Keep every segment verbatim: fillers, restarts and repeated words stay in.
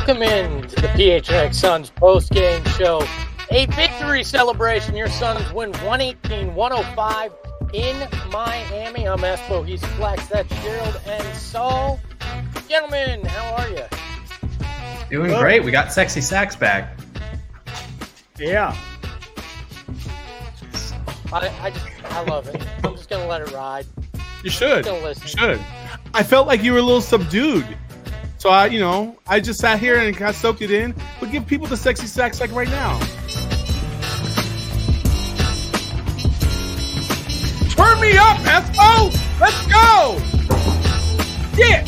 Welcome in to the P H N X Suns post-game show. A victory celebration. Your Suns win one eighteen one oh five in Miami. I'm Espo. He's Flex. That's Gerald and Saul. Gentlemen, how are you? Doing Good. Great. We got Sexy Sax back. Yeah. I, I just, I love it. I'm just going to let it ride. You should. You should. I felt like you were a little subdued. So, I, you know, I just sat here and kind of soaked it in. But give people the Sexy Sax like right now. Turn me up, Espo! Let's go! Yeah!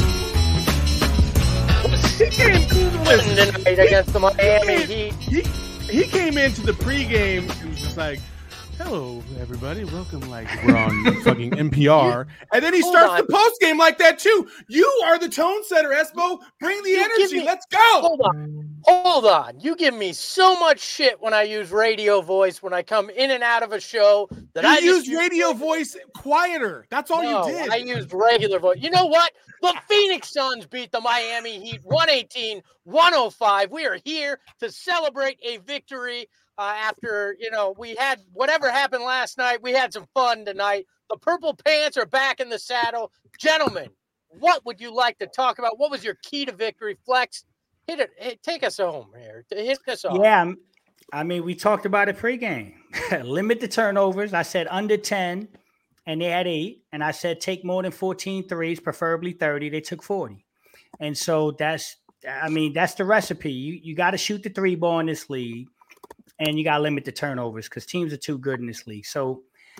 He came tonight against the Miami Heat. He, he came into the pregame and was just like, hello, everybody. Welcome, like we're on fucking N P R. And then he Hold starts on. the postgame like that, too. You are the tone setter, Espo. Bring the You give energy. me- Let's go! Hold on. Hold on. You give me so much shit when I use radio voice, when I come in and out of a show. That You I just used use radio voice quieter. That's all No, you did. I used regular voice. You know what? The Phoenix Suns beat the Miami Heat one eighteen one oh five. We are here to celebrate a victory uh, after, you know, we had whatever happened last night. We had some fun tonight. The Purple Pants are back in the saddle. Gentlemen, what would you like to talk about? What was your key to victory? Flex, hit it. Hit, take us home here. Hit us off. Yeah. I mean, we talked about it pregame. Limit the turnovers. I said under ten, and they had eight. And I said take more than fourteen threes, preferably thirty. They took forty. And so that's, I mean, that's the recipe. You you got to shoot the three ball in this league, and you got to limit the turnovers because teams are too good in this league. So,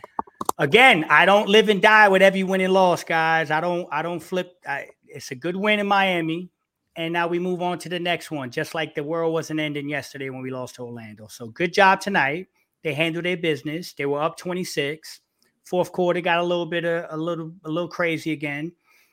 again, I don't live and die with every win and loss, guys. I don't, I don't flip. I, it's a good win in Miami. And now we move on to the next one, just like the world wasn't ending yesterday when we lost to Orlando. So good job tonight. They handled their business. They were up twenty-six. Fourth quarter got a little bit of a little a little crazy again.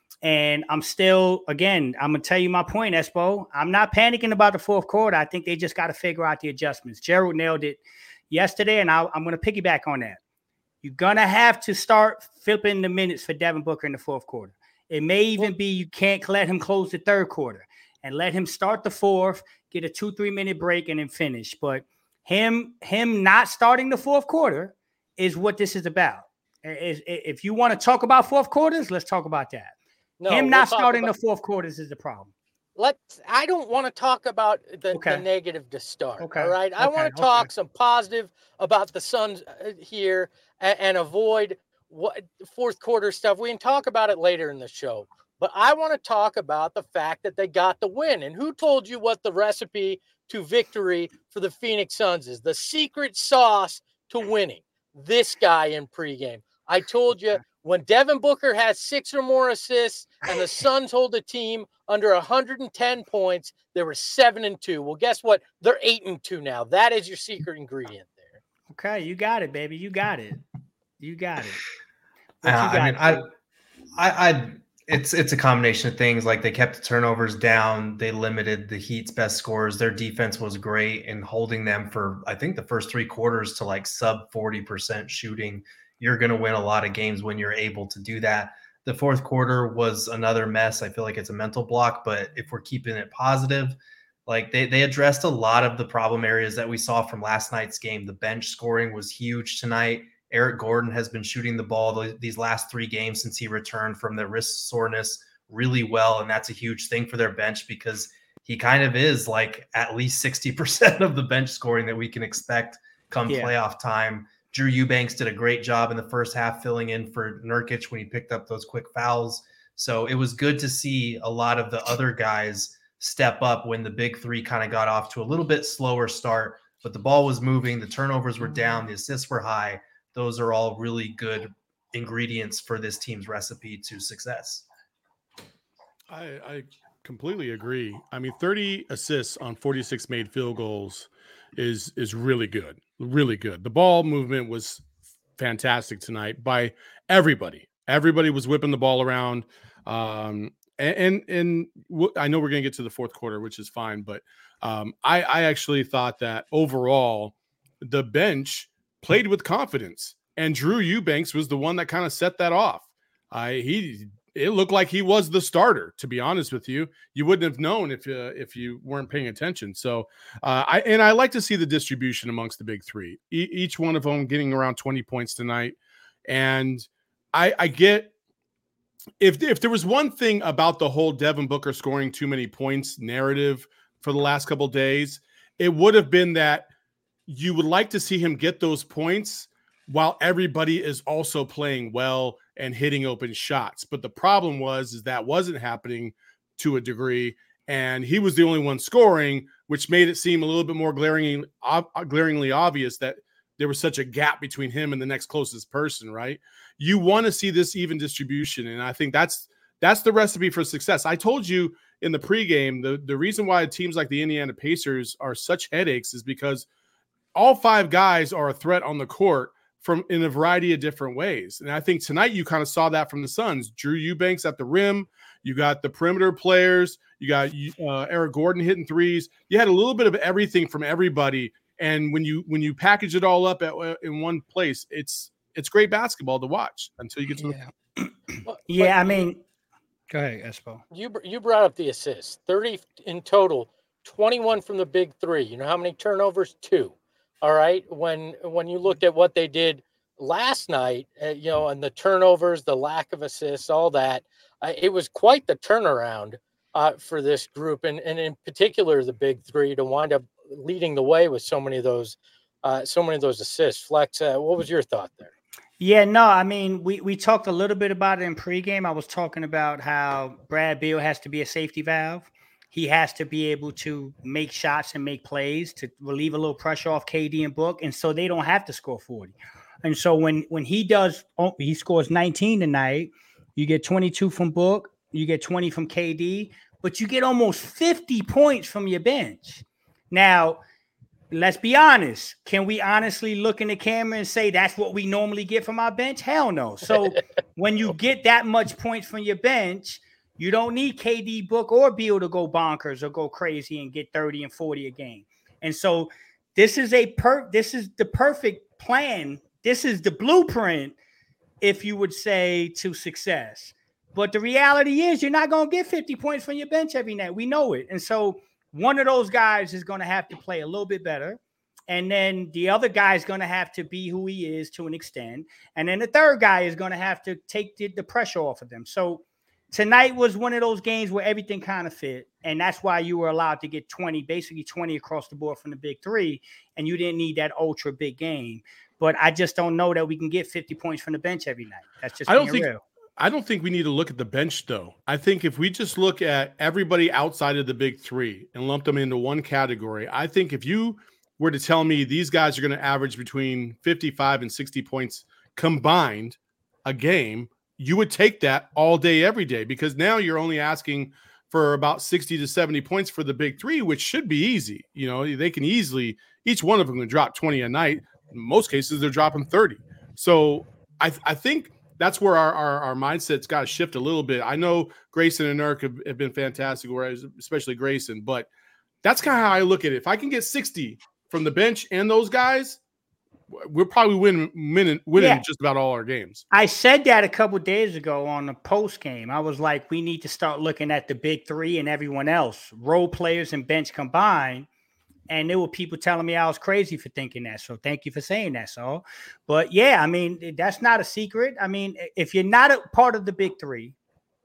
And I'm still, again, I'm gonna tell you my point, Espo. I'm not panicking about the fourth quarter. I think they just got to figure out the adjustments. Gerald nailed it yesterday, and I, I'm gonna piggyback on that. You're gonna have to start flipping the minutes for Devin Booker in the fourth quarter. It may even be you can't let him close the third quarter. And let him start the fourth, get a two, three minute break, and then finish. But him, him not starting the fourth quarter is what this is about. If, if you want to talk about fourth quarters, let's talk about that. No, him we'll not talk starting about- the fourth quarters is the problem. Let's. I don't want to talk about the, Okay. the negative to start. Okay. All right. I Okay. want to talk Okay. some positive about the Suns uh, here and, and avoid what fourth quarter stuff. We can talk about it later in the show. But I want to talk about the fact that they got the win. And who told you what the recipe to victory for the Phoenix Suns is? The secret sauce to winning. This guy in pregame. I told you when Devin Booker has six or more assists and the Suns hold a team under one hundred ten points, they were seven and two. Well, guess what? They're eight and two now. That is your secret ingredient there. Okay, you got it, baby. You got it. You got it. Uh, What you got, I mean, I, Joe? I, I, it's it's a combination of things. Like they kept the turnovers down. They limited the Heat's best scorers. Their defense was great in holding them for, I think, the first three quarters to like sub forty percent shooting. You're going to win a lot of games when you're able to do that. The fourth quarter was another mess. I feel like it's a mental block, but if we're keeping it positive, like they, they addressed a lot of the problem areas that we saw from last night's game. The bench scoring was huge tonight. Eric Gordon has been shooting the ball th- these last three games since he returned from the wrist soreness really well. And that's a huge thing for their bench because he kind of is like at least sixty percent of the bench scoring that we can expect come Yeah. playoff time. Drew Eubanks did a great job in the first half filling in for Nurkic when he picked up those quick fouls. So it was good to see a lot of the other guys step up when the big three kind of got off to a little bit slower start, but the ball was moving, the turnovers were down, the assists were high. Those are all really good ingredients for this team's recipe to success. I, I completely agree. I mean, thirty assists on forty-six made field goals is is really good, really good. The ball movement was fantastic tonight by everybody. Everybody was whipping the ball around. Um, and and, and w- I know we're going to get to the fourth quarter, which is fine, but um, I, I actually thought that overall the bench played with confidence, and Drew Eubanks was the one that kind of set that off. I he it looked like he was the starter. To be honest with you, you wouldn't have known if uh, if you weren't paying attention. So, uh, I and I like to see the distribution amongst the big three. E- each one of them getting around twenty points tonight, and I, I get if if there was one thing about the whole Devin Booker scoring too many points narrative for the last couple of days, it would have been that you would like to see him get those points while everybody is also playing well and hitting open shots. But the problem was is that wasn't happening to a degree, and he was the only one scoring, which made it seem a little bit more glaringly, ob- glaringly obvious that there was such a gap between him and the next closest person, right? You want to see this even distribution, and I think that's that's the recipe for success. I told you in the pregame, the, the reason why teams like the Indiana Pacers are such headaches is because all five guys are a threat on the court from in a variety of different ways. And I think tonight you kind of saw that from the Suns. Drew Eubanks at the rim. You got the perimeter players. You got uh, Eric Gordon hitting threes. You had a little bit of everything from everybody. And when you when you package it all up at, in one place, it's it's great basketball to watch until you get to yeah. the – Yeah, I mean – go ahead, Espo. You, you brought up the assists. thirty in total, twenty-one from the big three. You know how many turnovers? Two. All right. When when you looked at what they did last night, uh, you know, and the turnovers, the lack of assists, all that, uh, it was quite the turnaround uh, for this group, and and in particular the big three to wind up leading the way with so many of those, uh, so many of those assists. Flex, uh, what was your thought there? Yeah, no, I mean, we we talked a little bit about it in pregame. I was talking about how Brad Beal has to be a safety valve. He has to be able to make shots and make plays to relieve a little pressure off K D and Book, and so they don't have to score forty. And so when when he does, oh, he scores nineteen tonight. You get twenty-two from Book, you get twenty from K D, but you get almost fifty points from your bench. Now, let's be honest. Can we honestly look in the camera and say that's what we normally get from our bench? Hell no. So when you get that much points from your bench, you don't need K D, Book, or Beal to go bonkers or go crazy and get thirty and forty a game. And so this is a per this is the perfect plan. This is the blueprint, if you would say, to success. But the reality is you're not going to get fifty points from your bench every night. We know it. And so one of those guys is going to have to play a little bit better. And then the other guy is going to have to be who he is to an extent. And then the third guy is going to have to take the, the pressure off of them. So tonight was one of those games where everything kind of fit, and that's why you were allowed to get twenty, basically twenty across the board from the big three, and you didn't need that ultra big game. But I just don't know that we can get fifty points from the bench every night. That's just I don't being think real. I don't think we need to look at the bench, though. I think if we just look at everybody outside of the big three and lump them into one category, I think if you were to tell me these guys are going to average between fifty-five and sixty points combined a game, you would take that all day, every day, because now you're only asking for about sixty to seventy points for the big three, which should be easy. You know, they can easily, each one of them can drop twenty a night. In most cases, they're dropping thirty. So I, I think that's where our, our, our mindset's got to shift a little bit. I know Grayson and Nurk have, have been fantastic, whereas especially Grayson, but that's kind of how I look at it. If I can get sixty from the bench and those guys, we're probably winning, winning, winning Yeah. just about all our games. I said that a couple of days ago on the post game. I was like, we need to start looking at the big three and everyone else, role players and bench combined. And there were people telling me I was crazy for thinking that. So thank you for saying that, Saul. But yeah, I mean, that's not a secret. I mean, if you're not a part of the big three,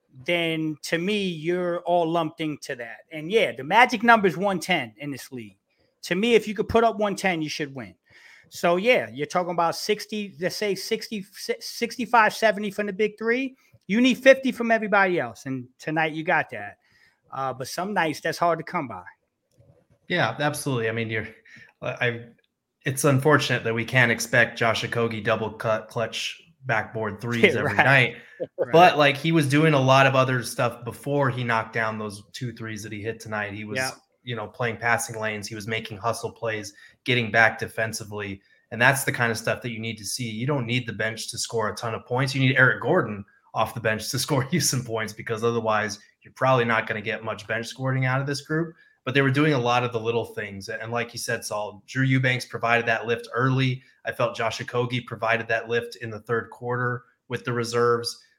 then to me, you're all lumped into that. And yeah, the magic number is one ten in this league. To me, if you could put up one ten, you should win. So yeah, you're talking about sixty, let's say sixty, sixty-five, seventy from the big three. You need fifty from everybody else. And tonight you got that. Uh, but some nights that's hard to come by. Yeah, absolutely. I mean, you're, I, it's unfortunate that we can't expect Josh Okogie double cut clutch backboard threes Yeah, every right. night. Right. But like he was doing a lot of other stuff before he knocked down those two threes that he hit tonight. He was, Yeah. you know, playing passing lanes. He was making hustle plays, getting back defensively. And that's the kind of stuff that you need to see. You don't need the bench to score a ton of points. You need Eric Gordon off the bench to score you some points, because otherwise you're probably not going to get much bench scoring out of this group. But they were doing a lot of the little things. And like you said, Saul, Drew Eubanks provided that lift early. I felt Josh Okogie provided that lift in the third quarter with the reserves.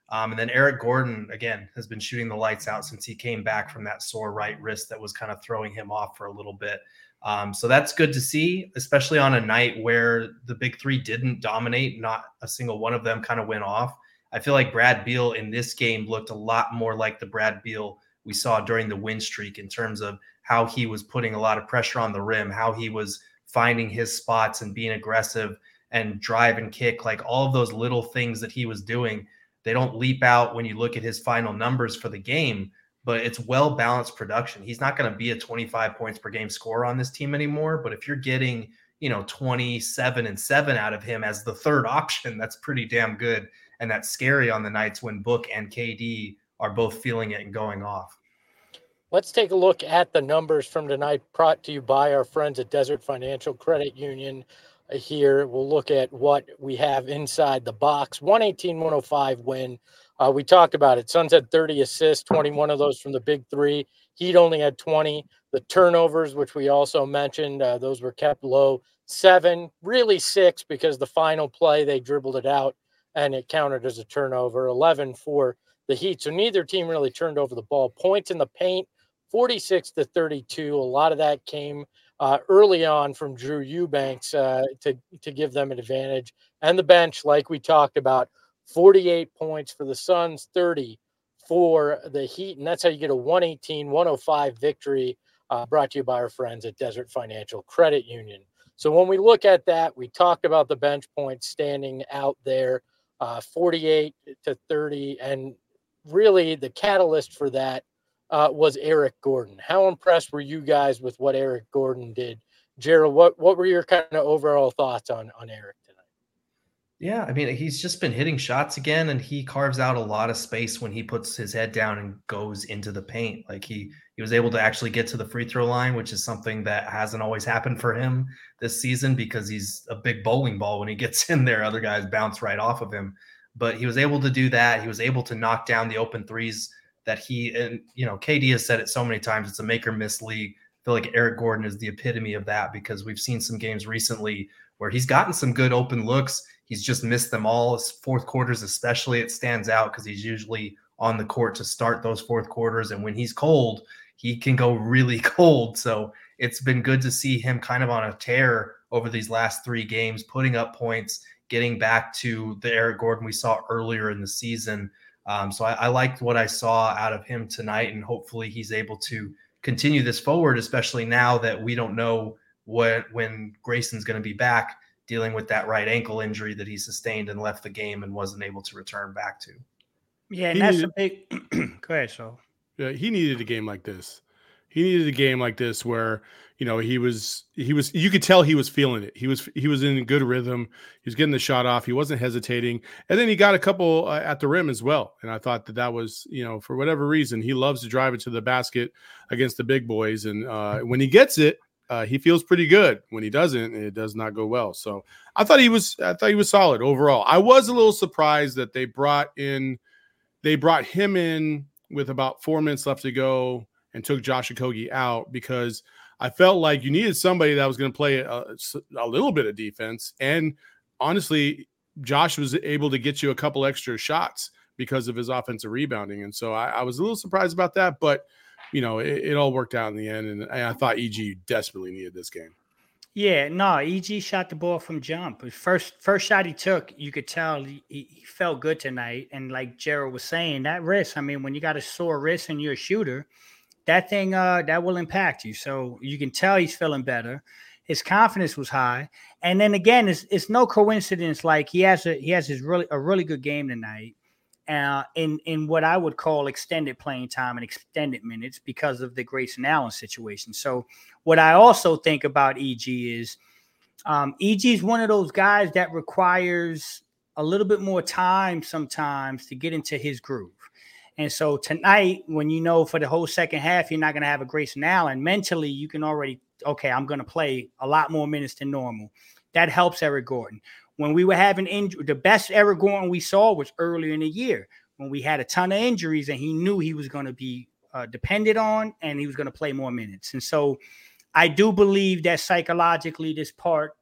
Um, and then Eric Gordon, again, has been shooting the lights out since he came back from that sore right wrist that was kind of throwing him off for a little bit. Um, so that's good to see, especially on a night where the big three didn't dominate. Not a single one of them kind of went off. I feel like Brad Beal in this game looked a lot more like the Brad Beal we saw during the win streak in terms of how he was putting a lot of pressure on the rim, how he was finding his spots and being aggressive and drive and kick, like all of those little things that he was doing. They don't leap out when you look at his final numbers for the game, but it's well-balanced production. He's not going to be a twenty-five points per game scorer on this team anymore. But if you're getting, you know, twenty-seven and seven out of him as the third option, that's pretty damn good. And that's scary on the nights when Book and K D are both feeling it and going off. Let's take a look at the numbers from tonight, brought to you by our friends at Desert Financial Credit Union. Here we'll look at what we have inside the box. one eighteen one oh five win. Uh, we talked about it. Suns had thirty assists, twenty-one of those from the big three. Heat only had twenty. The turnovers, which we also mentioned, uh, those were kept low. Seven, really six, because the final play they dribbled it out and it counted as a turnover. eleven for the Heat. So neither team really turned over the ball. Points in the paint, forty-six to thirty-two. A lot of that came Uh, early on from Drew Eubanks uh, to, to give them an advantage. And the bench, like we talked about, forty-eight points for the Suns, thirty for the Heat. And that's how you get a one eighteen one oh five victory, uh, brought to you by our friends at Desert Financial Credit Union. So when we look at that, we talked about the bench points standing out there, uh, forty-eight to thirty. And really the catalyst for that Uh, was Eric Gordon. How impressed were you guys with what Eric Gordon did? Gerald, what, what were your kind of overall thoughts on, on Eric tonight? Yeah, I mean, he's just been hitting shots again, and he carves out a lot of space when he puts his head down and goes into the paint. Like he he was able to actually get to the free throw line, which is something that hasn't always happened for him this season because he's a big bowling ball when he gets in there. Other guys bounce right off of him. But he was able to do that. He was able to knock down the open threes that he, and you know, K D has said it so many times, it's a make or miss league. I feel like Eric Gordon is the epitome of that because we've seen some games recently where he's gotten some good open looks. He's just missed them all. His fourth quarters especially, it stands out because he's usually on the court to start those fourth quarters. And when he's cold, he can go really cold. So it's been good to see him kind of on a tear over these last three games, putting up points, getting back to the Eric Gordon we saw earlier in the season. Um, so I, I liked what I saw out of him tonight, and hopefully he's able to continue this forward, especially now that we don't know what when Grayson's going to be back dealing with that right ankle injury that he sustained and left the game and wasn't able to return back to. Yeah, and He that's needed- a big – go ahead, so. Yeah, he needed a game like this. He needed a game like this where, you know, he was he was you could tell he was feeling it. He was he was in a good rhythm. He was getting the shot off. He wasn't hesitating. And then he got a couple uh, at the rim as well. And I thought that that was, you know, for whatever reason, he loves to drive it to the basket against the big boys. And uh, when he gets it, uh, he feels pretty good. When he doesn't, it does not go well. So I thought he was I thought he was solid overall. I was a little surprised that they brought in they brought him in with about four minutes left to go and took Josh Okogie out because I felt like you needed somebody that was going to play a, a little bit of defense. And honestly, Josh was able to get you a couple extra shots because of his offensive rebounding. And so I, I was a little surprised about that, but you know, it, it all worked out in the end. And I thought E G desperately needed this game. Yeah, no, E G shot the ball from jump. His first first shot he took, you could tell he, he felt good tonight. And like Gerald was saying, that wrist, I mean, when you got a sore wrist and you're a shooter, that thing, uh, that will impact you. So you can tell he's feeling better. His confidence was high. And then again, it's, it's no coincidence. Like he has a, he has his really, a really good game tonight. Uh, in, in what I would call extended playing time and extended minutes because of the Grayson Allen situation. So what I also think about E G is um, E G is one of those guys that requires a little bit more time sometimes to get into his groove. And so tonight, when you know for the whole second half, you're not going to have a Grayson Allen, mentally, you can already, okay, I'm going to play a lot more minutes than normal. That helps Eric Gordon. When we were having injury, the best Eric Gordon we saw was earlier in the year when we had a ton of injuries and he knew he was going to be uh, depended on and he was going to play more minutes. And so I do believe that psychologically this part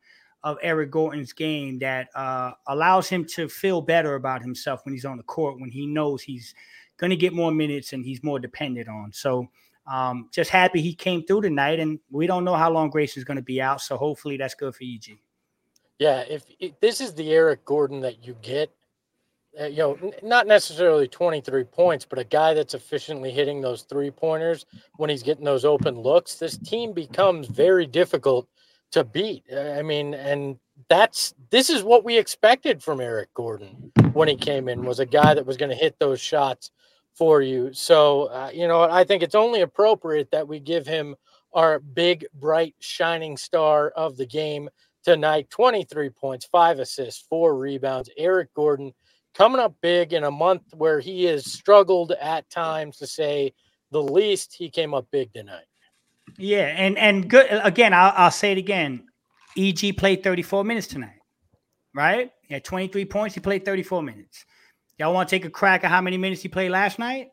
of Eric Gordon's game that uh, allows him to feel better about himself when he's on the court, when he knows he's going to get more minutes and he's more dependent on. So um, just happy he came through tonight, and we don't know how long Grayson's going to be out. So hopefully that's good for E G. Yeah, if, if this is the Eric Gordon that you get, uh, you know, n- not necessarily twenty-three points, but a guy that's efficiently hitting those three pointers when he's getting those open looks, this team becomes very difficult to beat. I mean, and that's this is what we expected from Eric Gordon when he came in, was a guy that was going to hit those shots for you. So, uh, you know, I think it's only appropriate that we give him our big, bright, shining star of the game tonight. twenty-three points, five assists, four rebounds. Eric Gordon coming up big in a month where he has struggled at times, to say the least. He came up big tonight. Yeah, and and good again. I'll, I'll say it again. E G played thirty-four minutes tonight, right? He had twenty-three points. He played thirty-four minutes. Y'all want to take a crack at how many minutes he played last night?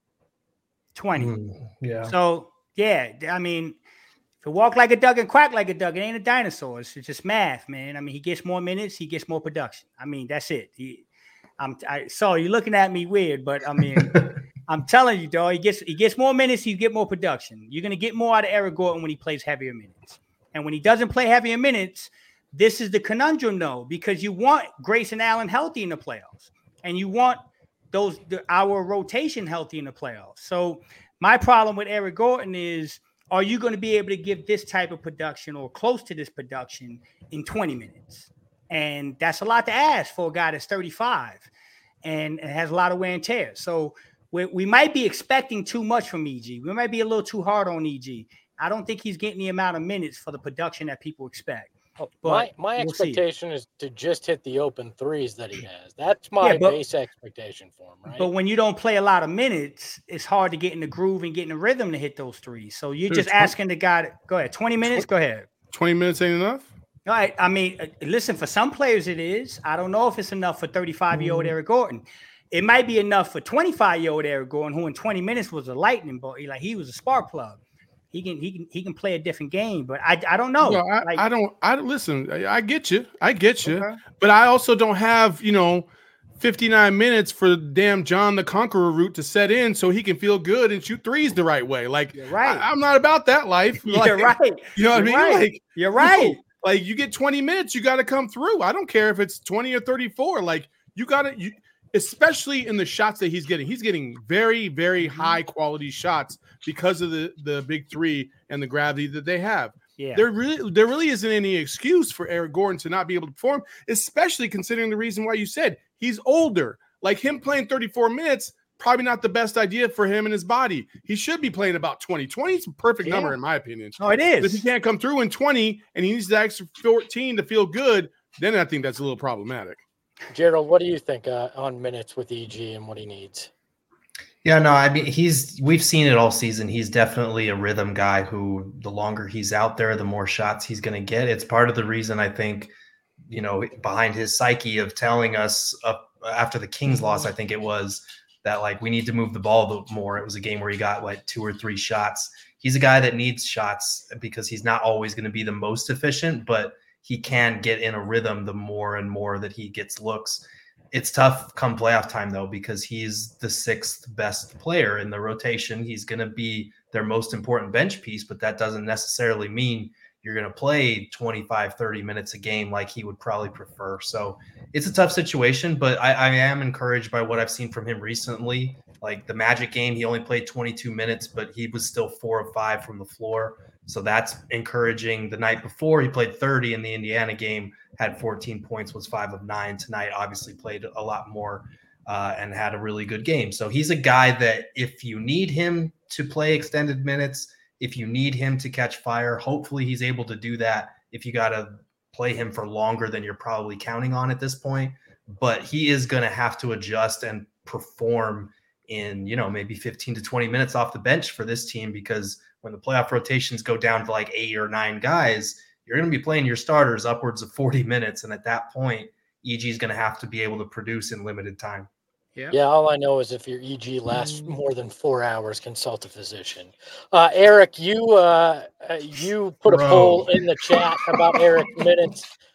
twenty. Mm, yeah. So yeah, I mean, if you walk like a duck and quack like a duck, it ain't a dinosaur. It's just math, man. I mean, he gets more minutes, he gets more production. I mean, that's it. He, I'm I saw you looking at me weird, but I mean. I'm telling you, dog, he gets he gets more minutes, you get more production. You're gonna get more out of Eric Gordon when he plays heavier minutes. And when he doesn't play heavier minutes, this is the conundrum, though, because you want Grayson Allen healthy in the playoffs, and you want those the, our rotation healthy in the playoffs. So my problem with Eric Gordon is, are you going to be able to give this type of production or close to this production in twenty minutes? And that's a lot to ask for a guy that's thirty-five and, and has a lot of wear and tear. So We, we might be expecting too much from E G. We might be a little too hard on E G. I don't think he's getting the amount of minutes for the production that people expect. But my my we'll expectation see. is to just hit the open threes that he has. That's my yeah, but, base expectation for him, right? But when you don't play a lot of minutes, it's hard to get in the groove and get in the rhythm to hit those threes. So you're Dude, just asking the guy to go ahead. twenty minutes, go ahead. twenty minutes ain't enough? All right. I mean, listen, for some players it is. I don't know if it's enough for thirty-five-year-old mm-hmm. Eric Gordon. It might be enough for twenty-five-year-old Eric Gordon, who in twenty minutes was a lightning bolt. Like he was a spark plug. He can he can he can play a different game, but I I don't know. No, I, like, I don't. I listen. I, I get you. I get you. Okay. But I also don't have you know fifty-nine minutes for damn John the Conqueror route to set in so he can feel good and shoot threes the right way. Like You're right. I, I'm not about that life. Like, You're right. You know what You're I mean? Right. Like You're right. No, like you get twenty minutes, you got to come through. I don't care if it's twenty or thirty-four. Like you got to you. Especially in the shots that he's getting. He's getting very, very high quality shots because of the, the big three and the gravity that they have. Yeah. There really there really isn't any excuse for Eric Gordon to not be able to perform, especially considering the reason why you said he's older. Like him playing thirty-four minutes, probably not the best idea for him and his body. He should be playing about twenty. twenty is a perfect yeah. number in my opinion. Oh, it is. But if he can't come through in twenty and he needs the extra fourteen to feel good, then I think that's a little problematic. Gerald, what do you think uh, on minutes with E G and what he needs? Yeah, no, I mean, he's we've seen it all season. He's definitely a rhythm guy who the longer he's out there, the more shots he's going to get. It's part of the reason I think, you know, behind his psyche of telling us up after the Kings loss, I think it was that like we need to move the ball more. It was a game where he got like two or three shots. He's a guy that needs shots because he's not always going to be the most efficient, but he can get in a rhythm the more and more that he gets looks. It's tough come playoff time, though, because he's the sixth best player in the rotation. He's going to be their most important bench piece, but that doesn't necessarily mean you're going to play twenty-five, thirty minutes a game like he would probably prefer. So it's a tough situation, but I, I am encouraged by what I've seen from him recently. Like the Magic game, he only played twenty-two minutes, but he was still four of five from the floor. So that's encouraging. The night before, he played thirty in the Indiana game, had fourteen points, was five of nine. Tonight, obviously played a lot more uh, and had a really good game. So he's a guy that if you need him to play extended minutes, if you need him to catch fire, hopefully he's able to do that. If you got to play him for longer than you're probably counting on at this point, but he is going to have to adjust and perform in, you know, maybe fifteen to twenty minutes off the bench for this team, because when the playoff rotations go down to like eight or nine guys, you're going to be playing your starters upwards of forty minutes. And at that point, E G is going to have to be able to produce in limited time. Yeah. Yeah. All I know is if your E G lasts more than four hours, consult a physician. Uh, Eric, you uh, you put Bro. a poll in the chat about Eric minutes.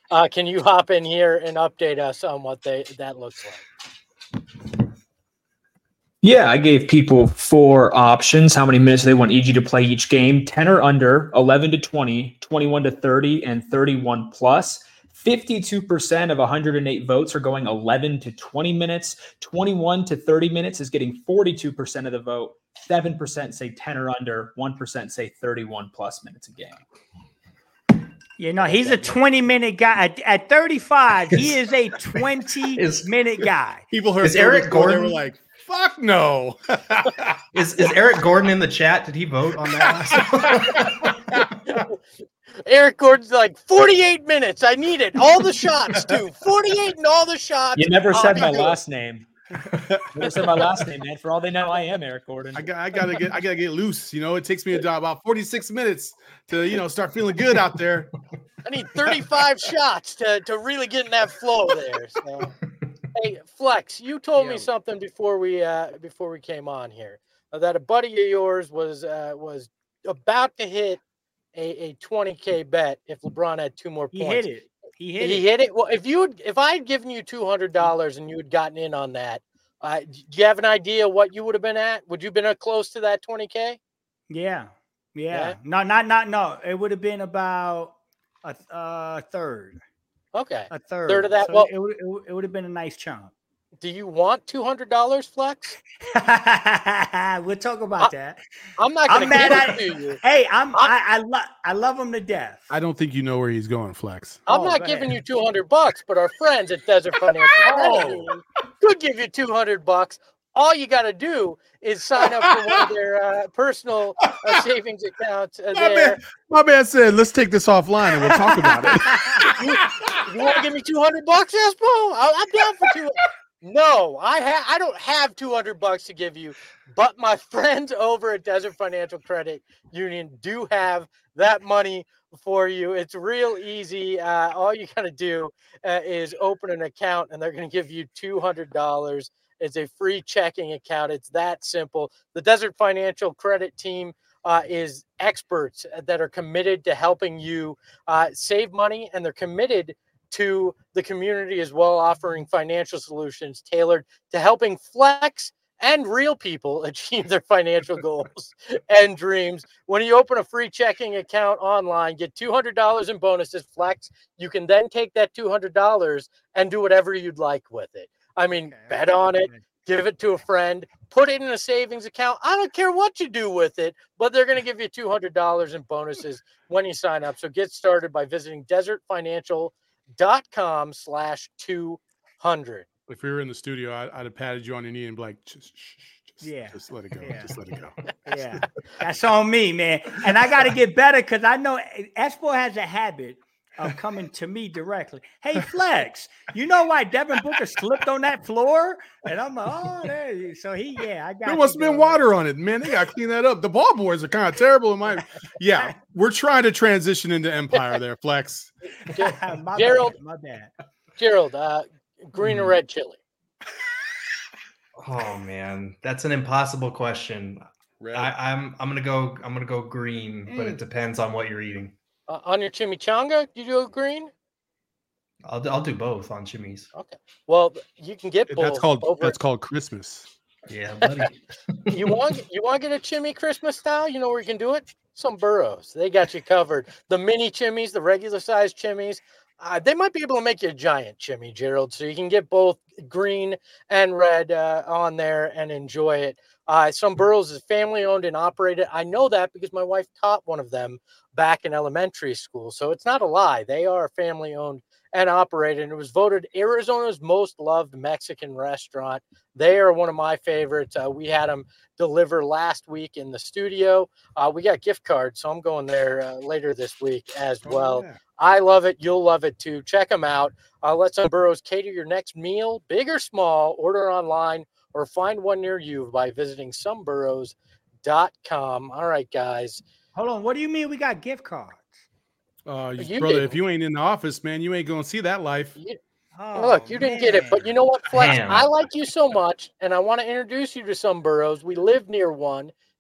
uh, can you hop in here and update us on what they that looks like? Yeah, I gave people four options, how many minutes they want E G to play each game. ten or under, eleven to twenty, twenty-one to thirty, and thirty-one plus. fifty-two percent of one hundred eight votes are going eleven to twenty minutes. twenty-one to thirty minutes is getting forty-two percent of the vote. seven percent say ten or under. one percent say thirty-one plus minutes a game. You know, he's a twenty minute guy. At, at thirty-five, he is a twenty Is- minute guy. People heard Is Eric Phil score, they were Gordon- like, "Fuck no." Is is Eric Gordon in the chat? Did he vote on that last one? Eric Gordon's like forty-eight minutes. I need it. All the shots, too. forty-eight and all the shots. You never I'll said be my good. last name. You never said my last name, man. For all they know, I am Eric Gordon. I got, I gotta get, I gotta get loose. You know, it takes me about forty-six minutes to, you know, start feeling good out there. I need thirty-five shots to, to really get in that flow there. So, hey, Flex, you told Yeah. me something before we uh, before we came on here uh, that a buddy of yours was uh, was about to hit a, a twenty K bet if LeBron had two more He points. hit it. He hit he it. hit it. Well, if you had, if I had given you two hundred dollars and you had gotten in on that, uh, do you have an idea what you would have been at? Would you have been uh, close to that twenty K? Yeah. Yeah. Yeah? No, not not no. It would have been about a uh, third. Okay. A third. Third of that. So Well, it would it would, it would have been a nice chunk. do you want two hundred dollars, Flex? We'll talk about that. I'm not going I'm to mad give at it to you. Hey, I'm I I, lo- I love him to death. I don't think you know where he's going, Flex. I'm Oh, not go giving ahead. you two hundred bucks, but our friends at Desert Financial Credit Oh. Union could give you two hundred bucks. All you got to do is sign up for one of their uh, personal uh, savings accounts. Uh, My there. man, my man said, "Let's take this offline and we'll talk about it." You, you want to give me two hundred bucks, Espo? I'll- I'm down for two. No, I ha- I don't have two hundred bucks to give you, but my friends over at Desert Financial Credit Union do have that money for you. It's real easy. Uh, all you got to do uh, is open an account, and they're going to give you two hundred dollars. It's a free checking account. It's that simple. The Desert Financial Credit Team uh, is experts that are committed to helping you uh, save money, and they're committed to the community as well, offering financial solutions tailored to helping Flex and real people achieve their financial goals and dreams. When you open a free checking account online, get two hundred dollars in bonuses, Flex. You can then take that two hundred dollars and do whatever you'd like with it. I mean, Okay. bet on it, give it to a friend, put it in a savings account. I don't care what you do with it, but they're going to give you two hundred dollars in bonuses when you sign up. So get started by visiting desertfinancial.com slash 200. If we were in the studio, I, I'd have patted you on your knee and be like, just, shh, shh, just, Yeah. just let it go. Yeah. Just let it go. Yeah, that's on me, man. And I got to get better because I know Espo has a habit of coming to me directly. Hey, Flex, you know why Devin Booker slipped on that floor? And I'm like, oh, there you. So he, yeah, I got. There you, must have been dog. water on it, man. They got to clean that up. The ball boys are kind of terrible in my. Yeah, we're trying to transition into Empire there, Flex. my Gerald. bad, my bad. Gerald, uh, green or red chili? Oh man, that's an impossible question. I, I'm I'm gonna go I'm gonna go green, but it depends on what you're eating. Uh, on your chimichanga, you do green? I'll do- I'll do both on chimneys. Okay. Well, you can get both. That's called over that's called Christmas. Yeah, buddy. You want you want to get a chimney Christmas style? You know where you can do it? Some Burrows. They got you covered. The mini chimneys, the regular size chimneys. Uh, they might be able to make you a giant chimney, Gerald. So you can get both green and red uh, on there and enjoy it. Uh, Some Burrows is family owned and operated. I know that because my wife taught one of them back in elementary school. So it's not a lie. They are family owned and operated. And it was voted Arizona's most loved Mexican restaurant. They are one of my favorites. Uh, we had them deliver last week in the studio. Uh, we got gift cards, so I'm going there uh, later this week as well. Oh, yeah. I love it. You'll love it too. Check them out. Uh, let Some Burrows cater your next meal, big or small. Order online or find one near you by visiting some burrows dot com. All right, guys. Hold on. What do you mean we got gift cards? Uh, You brother, didn't. if you ain't in the office, man, you ain't gonna see that life. You, Oh, look, you didn't get it, but man. you know what, Flex? Damn. I like you so much, and I want to introduce you to Some Burrows. We live near one.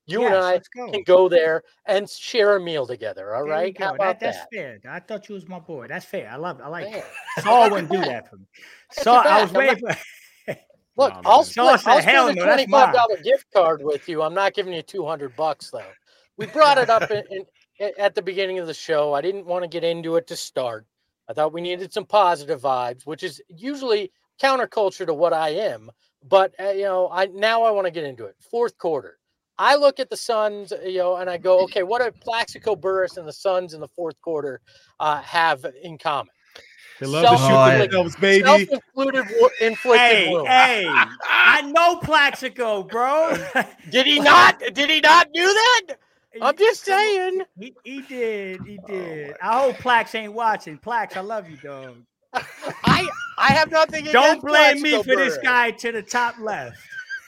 You Yes, and I let's go. can go there and share a meal together. All There we right? How go. about that, that's that? fair. I thought you was my boy. That's fair. I love. I like. Man, It. Saul wouldn't do that for me. got Saul, your I was back. I'm waiting. For, Look, Nah, I'll man. Saul split. said, I'll "Hell split a no, that's twenty-five mine." dollar gift card with you. I'm not giving you two hundred bucks though. We brought it up in, in, at the beginning of the show. I didn't want to get into it to start. I thought we needed some positive vibes, which is usually counterculture to what I am. But uh, you know, I now I want to get into it. Fourth quarter, I look at the Suns, you know, and I go, okay, what do Plaxico Burress and the Suns in the fourth quarter uh, have in common? They love to shoot Self-inflicted- themselves, baby. Self-inflicted wo- inflicted Hey, wound. hey, I know Plaxico, bro. Did he not? Did he not do that? I'm just Come on. saying. He, he did. He Oh, did. I hope Plax ain't watching. Plax, I love you, dog. I I have nothing against Don't blame me Plaxico for this Burress. guy to the top left.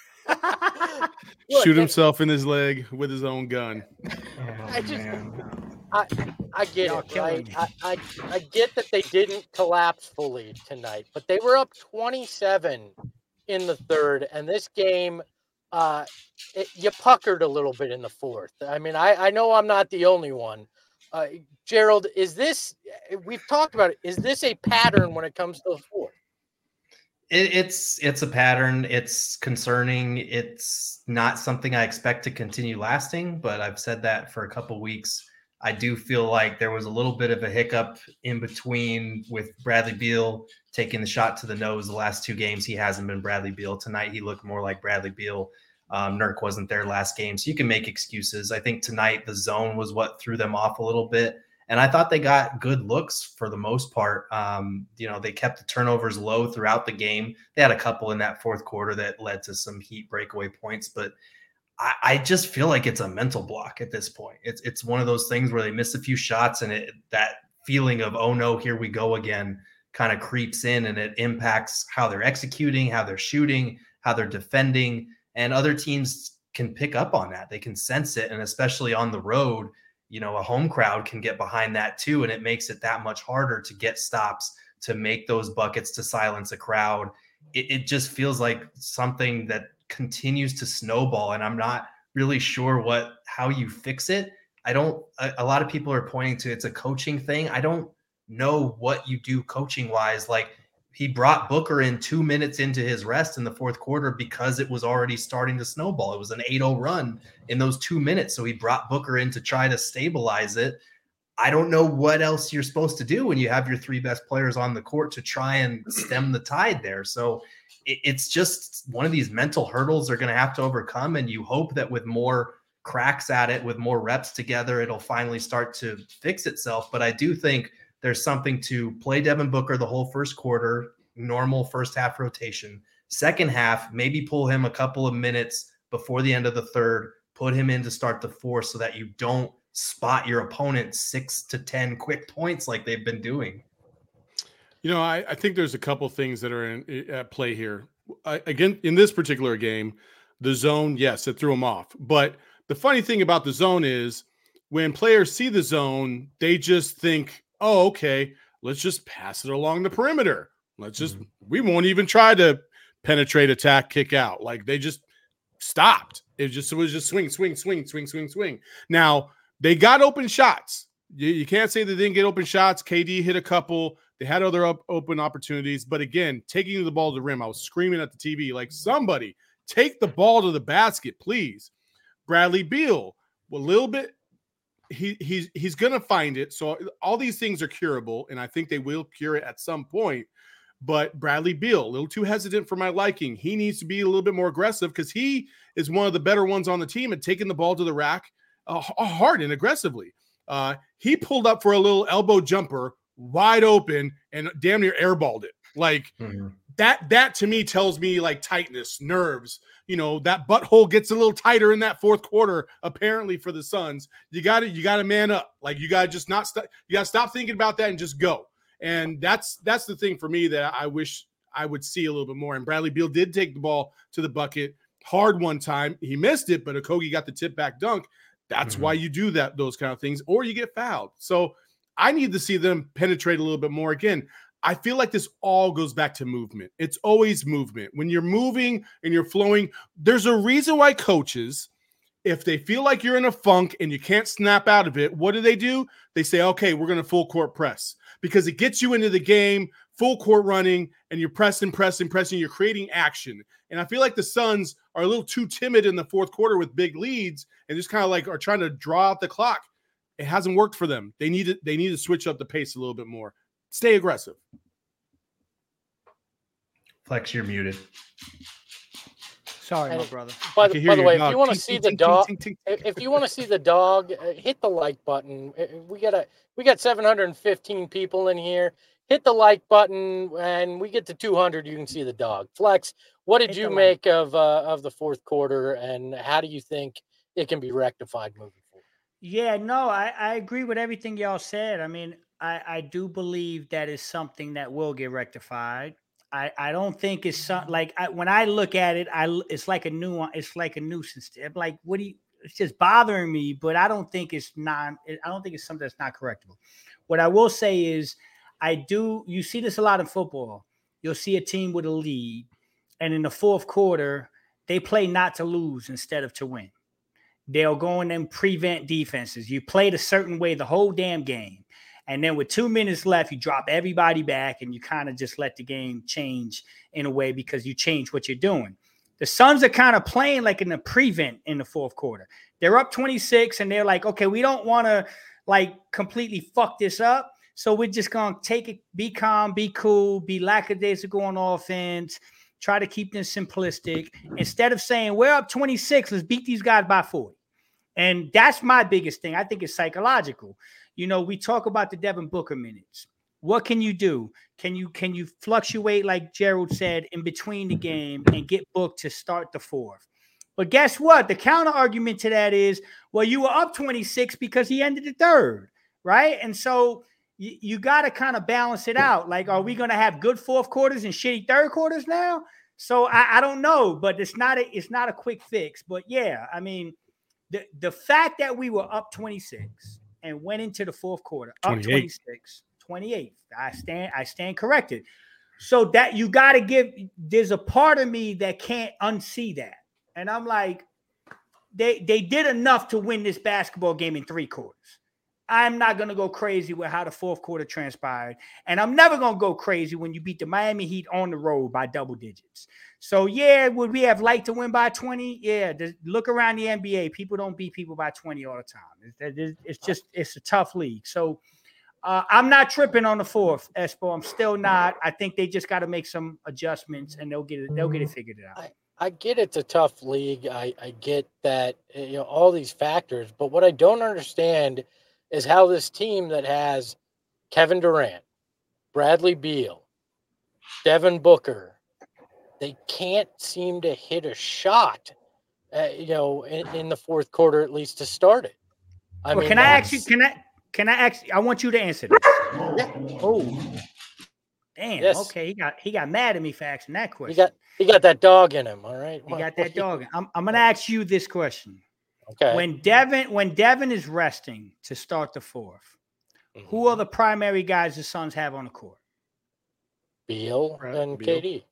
Look, Shoot it- himself in his leg with his own gun. I just- man. I get Y'all it, killing right? me. I, I I get that they didn't collapse fully tonight, but they were up twenty-seven in the third, and this game, uh, it, you puckered a little bit in the fourth. I mean, I I know I'm not the only one. Uh, Gerald, is this? We've talked about it. Is this a pattern when it comes to the fourth? It, it's it's a pattern. It's concerning. It's not something I expect to continue lasting, but I've said that for a couple weeks. I do feel like there was a little bit of a hiccup in between with Bradley Beal taking the shot to the nose the last two games. He hasn't been Bradley Beal. Tonight, he looked more like Bradley Beal. Um, Nurk wasn't there last game, so you can make excuses. I think tonight the zone was what threw them off a little bit. And I thought they got good looks for the most part. Um, you know, they kept the turnovers low throughout the game. They had a couple in that fourth quarter that led to some Heat breakaway points, but I, I just feel like it's a mental block at this point. It's it's one of those things where they miss a few shots and it that feeling of, oh no, here we go again, kind of creeps in and it impacts how they're executing, how they're shooting, how they're defending. And other teams can pick up on that. They can sense it. And especially on the road, you know, a home crowd can get behind that too. And it makes it that much harder to get stops, to make those buckets, to silence a crowd. It, it just feels like something that continues to snowball. And I'm not really sure what, how you fix it. I don't, a, a lot of people are pointing to it's a coaching thing. I don't know what you do coaching wise. Like he brought Booker in two minutes into his rest in the fourth quarter because it was already starting to snowball. It was an eight oh run in those two minutes. So he brought Booker in to try to stabilize it. I don't know what else you're supposed to do when you have your three best players on the court to try and stem the tide there. So it, it's just one of these mental hurdles they're going to have to overcome. And you hope that with more cracks at it, with more reps together, it'll finally start to fix itself. But I do think there's something to play Devin Booker the whole first quarter, normal first half rotation. Second half, maybe pull him a couple of minutes before the end of the third, put him in to start the fourth so that you don't spot your opponent six to ten quick points like they've been doing. You know, I, I think there's a couple things that are in, at play here. I, again, in this particular game, the zone, yes, it threw them off. But the funny thing about the zone is when players see the zone, they just think, oh, okay, let's just pass it along the perimeter. Let's just, mm-hmm. we won't even try to penetrate, attack, kick out. Like they just stopped. It just it was just swing, swing, swing, swing, swing, swing. Now, they got open shots. You, you can't say they didn't get open shots. K D hit a couple. They had other up, open opportunities. But again, taking the ball to the rim, I was screaming at the T V like, somebody take the ball to the basket, please. Bradley Beal, a little bit, he he's he's gonna find it. So all these things are curable, and I think they will cure it at some point. But Bradley Beal, a little too hesitant for my liking. He needs to be a little bit more aggressive because he is one of the better ones on the team at taking the ball to the rack uh, hard and aggressively. Uh, he pulled up for a little elbow jumper wide open and damn near airballed it. Like mm-hmm. that, that to me tells me like tightness, nerves. You know, that butthole gets a little tighter in that fourth quarter, apparently for the Suns. You got to, you got to man up. Like you got to just not, st- you got to stop thinking about that and just go. And that's that's the thing for me that I wish I would see a little bit more. And Bradley Beal did take the ball to the bucket hard one time. He missed it, but Okogie got the tip back dunk. That's mm-hmm. why you do that, those kind of things, or you get fouled. So I need to see them penetrate a little bit more. Again, I feel like this all goes back to movement. It's always movement. When you're moving and you're flowing, there's a reason why coaches If they feel like you're in a funk and you can't snap out of it, what do they do? They say, okay, we're going to full court press because it gets you into the game, full court running, and you're pressing, pressing, pressing. You're creating action. And I feel like the Suns are a little too timid in the fourth quarter with big leads and just kind of like are trying to draw out the clock. It hasn't worked for them. They need to, they need to switch up the pace a little bit more. Stay aggressive. Flex, you're muted. Sorry, And my brother. By, can the, hear by the your way, if dog. you want to Tink, see tink, the tink, dog, tink, tink, tink. if if you want to see the dog, uh, hit the like button. Uh, We got a we got seven hundred fifteen people in here. Hit the like button, and we get to two hundred. You can see the dog. Flex, what did Hit you the like. make of uh, of the fourth quarter, and how do you think it can be rectified moving forward? Yeah, no, I, I agree with everything y'all said. I mean, I, I do believe that is something that will get rectified. I, I don't think it's some, like I, when I look at it, I l- it's like a new it's like a nuisance. I'm like, what do you? It's just bothering me, but I don't think it's not. I don't think it's something that's not correctable. What I will say is, I do. You see this a lot in football. You'll see a team with a lead, and in the fourth quarter, they play not to lose instead of to win. They'll go in and prevent defenses. You played a certain way the whole damn game. And then with two minutes left, you drop everybody back and you kind of just let the game change in a way because you change what you're doing. The Suns are kind of playing like in a prevent in the fourth quarter. They're up twenty-six and they're like, okay, we don't want to like completely fuck this up. So we're just going to take it, be calm, be cool, be lackadaisical on offense, try to keep this simplistic. Instead of saying, we're up twenty-six, let's beat these guys by forty. And that's my biggest thing. I think it's psychological. You know, we talk about the Devin Booker minutes. What can you do? Can you can you fluctuate, like Gerald said, in between the game and get booked to start the fourth? But guess what? The counter argument to that is, well, you were up twenty-six because he ended the third, right? And so you, you got to kind of balance it out. Like, are we going to have good fourth quarters and shitty third quarters now? So I, I don't know, but it's not a it's not a quick fix. But yeah, I mean, the the fact that we were up twenty-six and went into the fourth quarter up twenty-eight. twenty-six, twenty-eight. I stand I stand corrected. So that you got to give, there's a part of me that can't unsee that. And I'm like, they they did enough to win this basketball game in three quarters. I'm not going to go crazy with how the fourth quarter transpired. And I'm never going to go crazy when you beat the Miami Heat on the road by double digits. So, yeah, would we have liked to win by twenty? Yeah, look around the N B A. People don't beat people by twenty all the time. It's, it's just, it's a tough league. So, uh, I'm not tripping on the fourth, Espo. I'm still not. I think they just got to make some adjustments, and they'll get it. They'll get it figured out. I, I get it's a tough league. I, I get that, you know, all these factors. But what I don't understand is how this team that has Kevin Durant, Bradley Beal, Devin Booker, they can't seem to hit a shot, uh, you know, in, in the fourth quarter, at least to start it. I well, mean, can I actually, can I, can I actually, I want you to answer this. Yeah. Oh, damn. Yes. Okay. He got, he got mad at me for asking that question. He got, he got that dog in him. All right. He got that dog. I'm, I'm going to ask you this question. Okay. When Devin, when Devin is resting to start the fourth, mm-hmm. who are the primary guys the Suns have on the court? Beal Right, and Beal. K D.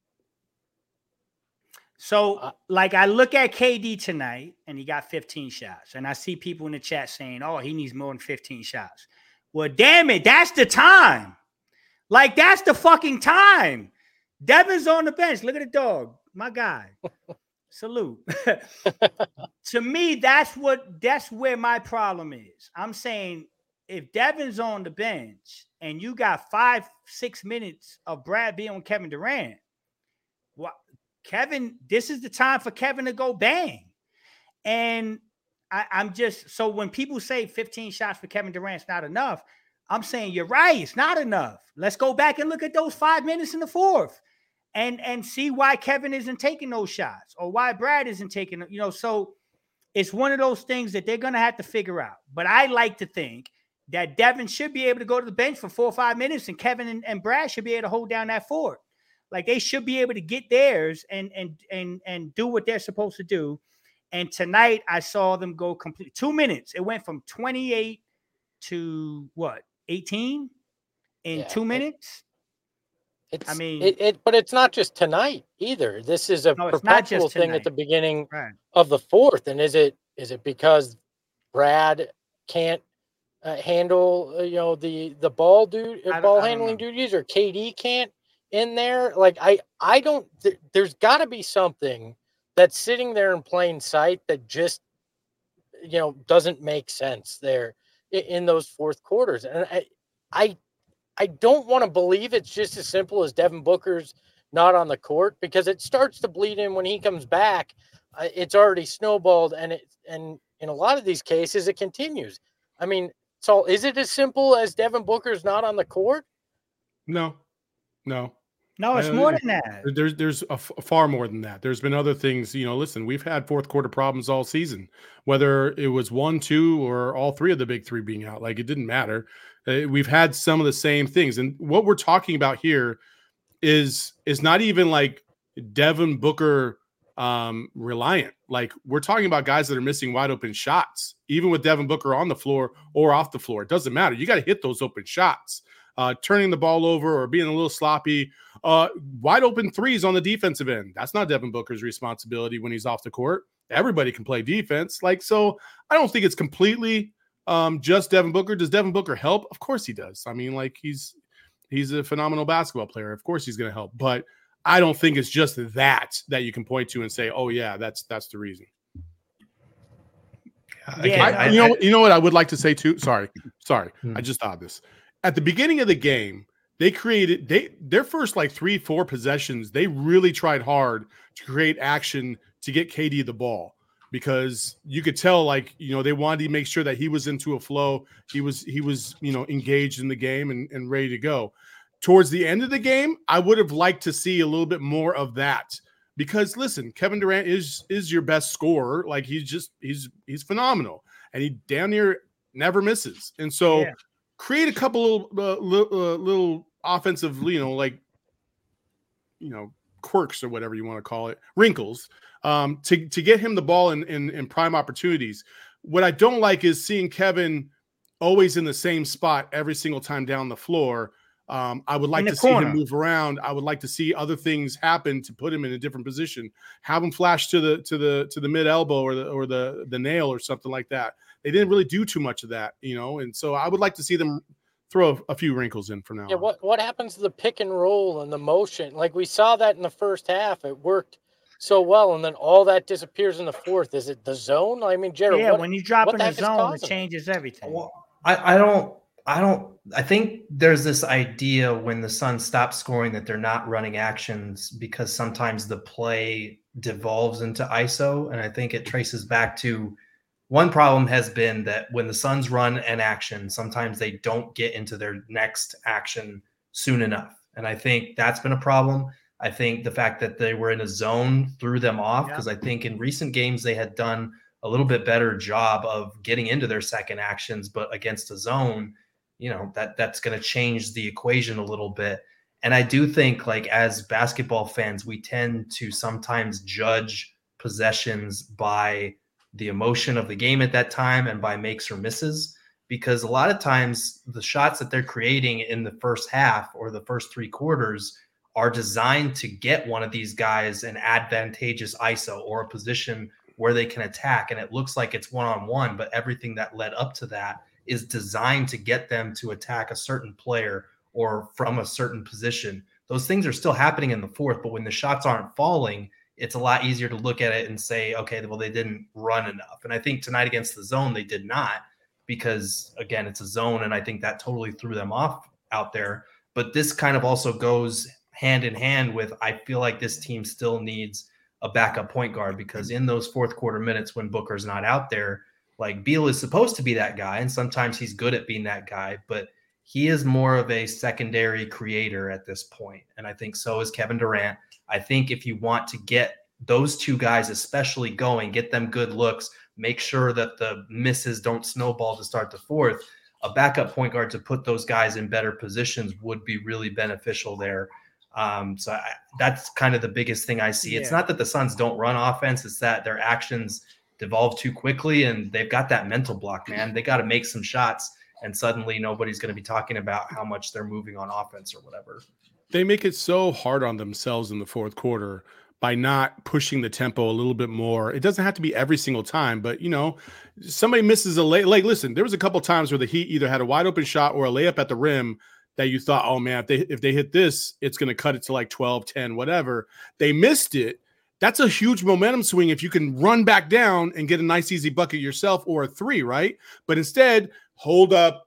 So, Uh, like, I look at K D tonight, and he got fifteen shots, and I see people in the chat saying, "Oh, he needs more than fifteen shots." Well, damn it, that's the time. Like, that's the fucking time. Devin's on the bench. Look at the dog, my guy. Salute. To me, that's what that's where my problem is. I'm saying if Devin's on the bench and you got five, six minutes of Brad Beal and Kevin Durant, what Kevin, this is the time for Kevin to go bang. And I, I'm just so when people say fifteen shots for Kevin Durant's not enough, I'm saying you're right, it's not enough. Let's go back and look at those five minutes in the fourth. And and see why Kevin isn't taking those shots or why Brad isn't taking, you know, so it's one of those things that they're going to have to figure out. But I like to think that Devin should be able to go to the bench for four or five minutes and Kevin and, and Brad should be able to hold down that fort. Like they should be able to get theirs and, and, and, and do what they're supposed to do. And tonight I saw them go complete two minutes. It went from twenty-eight to what? eighteen in Yeah. two minutes. It's I mean, it, it but it's not just tonight either. This is a No, it's not perpetual just thing at tonight. the beginning right. of the fourth. And is it is it because Brad can't uh, handle uh, you know the the ball dude I uh, don't- ball I don't handling know. duties, or K D can't in there? Like I I don't. Th- there's got to be something that's sitting there in plain sight that just you know doesn't make sense there in, in those fourth quarters. And I I I don't want to believe it's just as simple as Devin Booker's not on the court, because it starts to bleed in when he comes back. Uh, it's already snowballed, and it and in a lot of these cases it continues. I mean, so is it as simple as Devin Booker's not on the court? No, no. No, it's Uh, more than that. There's there's a f- far more than that. There's been other things. You know, listen, we've had fourth quarter problems all season, whether it was one, two, or all three of the big three being out. Like, it didn't matter. Uh, we've had some of the same things, and what we're talking about here is is not even like Devin Booker um, reliant. Like, we're talking about guys that are missing wide open shots, even with Devin Booker on the floor or off the floor. It doesn't matter. You got to hit those open shots. Uh, turning the ball over or being a little sloppy, uh, wide open threes on the defensive end. That's not Devin Booker's responsibility when he's off the court. Everybody can play defense. Like, so I don't think it's completely um, just Devin Booker. Does Devin Booker help? Of course he does. I mean, like, he's he's a phenomenal basketball player. Of course he's going to help. But I don't think it's just that that you can point to and say, oh yeah, that's that's the reason. Yeah, I, no, you know, you know what I would like to say too. Sorry, sorry, Hmm. I just thought this. At the beginning of the game, they created they their first like three, four possessions. They really tried hard to create action to get K D the ball, because you could tell, like, you know, they wanted to make sure that he was into a flow. He was he was you know engaged in the game and, and ready to go. Towards the end of the game, I would have liked to see a little bit more of that. Because listen, Kevin Durant is is your best scorer. Like, he's just he's he's phenomenal, and he damn near never misses. And so, Yeah. create a couple of uh, little, uh, little offensive, you know, like you know, quirks or whatever you want to call it, wrinkles, um, to to get him the ball in, in in prime opportunities. What I don't like is seeing Kevin always in the same spot every single time down the floor. Um, I would like the to see corner. him move around. I would like to see other things happen to put him in a different position. Have him flash to the to the to the mid elbow or the or the the nail or something like that. They didn't really do too much of that, you know. And so I would like to see them throw a, a few wrinkles in from now Yeah, on. what what happens to the pick and roll and the motion? Like, we saw that in the first half, it worked so well, and then all that disappears in the fourth. Is it the zone? I mean, Jared, Yeah, what, when you drop what in the the heck is zone, it causing it? changes everything. Well, I, I don't I don't I think there's this idea when the Suns stop scoring that they're not running actions, because sometimes the play devolves into I S O. And I think it traces back to one problem has been that when the Suns run an action, sometimes they don't get into their next action soon enough. And I think that's been a problem. I think the fact that they were in a zone threw them off, because I think in recent games they had done a little bit better job of getting into their second actions, but against a zone, you know, that that's going to change the equation a little bit. And I do think, like, as basketball fans, we tend to sometimes judge possessions by the emotion of the game at that time and by makes or misses, because a lot of times the shots that they're creating in the first half or the first three quarters are designed to get one of these guys an advantageous I S O or a position where they can attack. And it looks like it's one-on-one, but everything that led up to that is designed to get them to attack a certain player or from a certain position. Those things are still happening in the fourth, but when the shots aren't falling, it's a lot easier to look at it and say, okay, well, they didn't run enough. And I think tonight against the zone, they did not, because again, it's a zone. And I think that totally threw them off out there. But this kind of also goes hand in hand with, I feel like this team still needs a backup point guard, because in those fourth quarter minutes when Booker's not out there, like, Beal is supposed to be that guy. And sometimes he's good at being that guy, but he is more of a secondary creator at this point. And I think so is Kevin Durant. I think if you want to get those two guys especially going, get them good looks, make sure that the misses don't snowball to start the fourth, a backup point guard to put those guys in better positions would be really beneficial there. Um, so I, that's kind of the biggest thing I see. Yeah. It's not that the Suns don't run offense. It's that their actions devolve too quickly, and they've got that mental block, man. They got to make some shots, and suddenly nobody's going to be talking about how much they're moving on offense or whatever. they make it so hard on themselves in the fourth quarter by not pushing the tempo a little bit more. It doesn't have to be every single time, but you know, somebody misses a lay. Like, listen, there was a couple times where the Heat either had a wide open shot or a layup at the rim that you thought, oh man, if they if they hit this, it's going to cut it to like twelve, ten, whatever. They missed it. That's a huge momentum swing if you can run back down and get a nice easy bucket yourself or a three, right? But instead, hold up.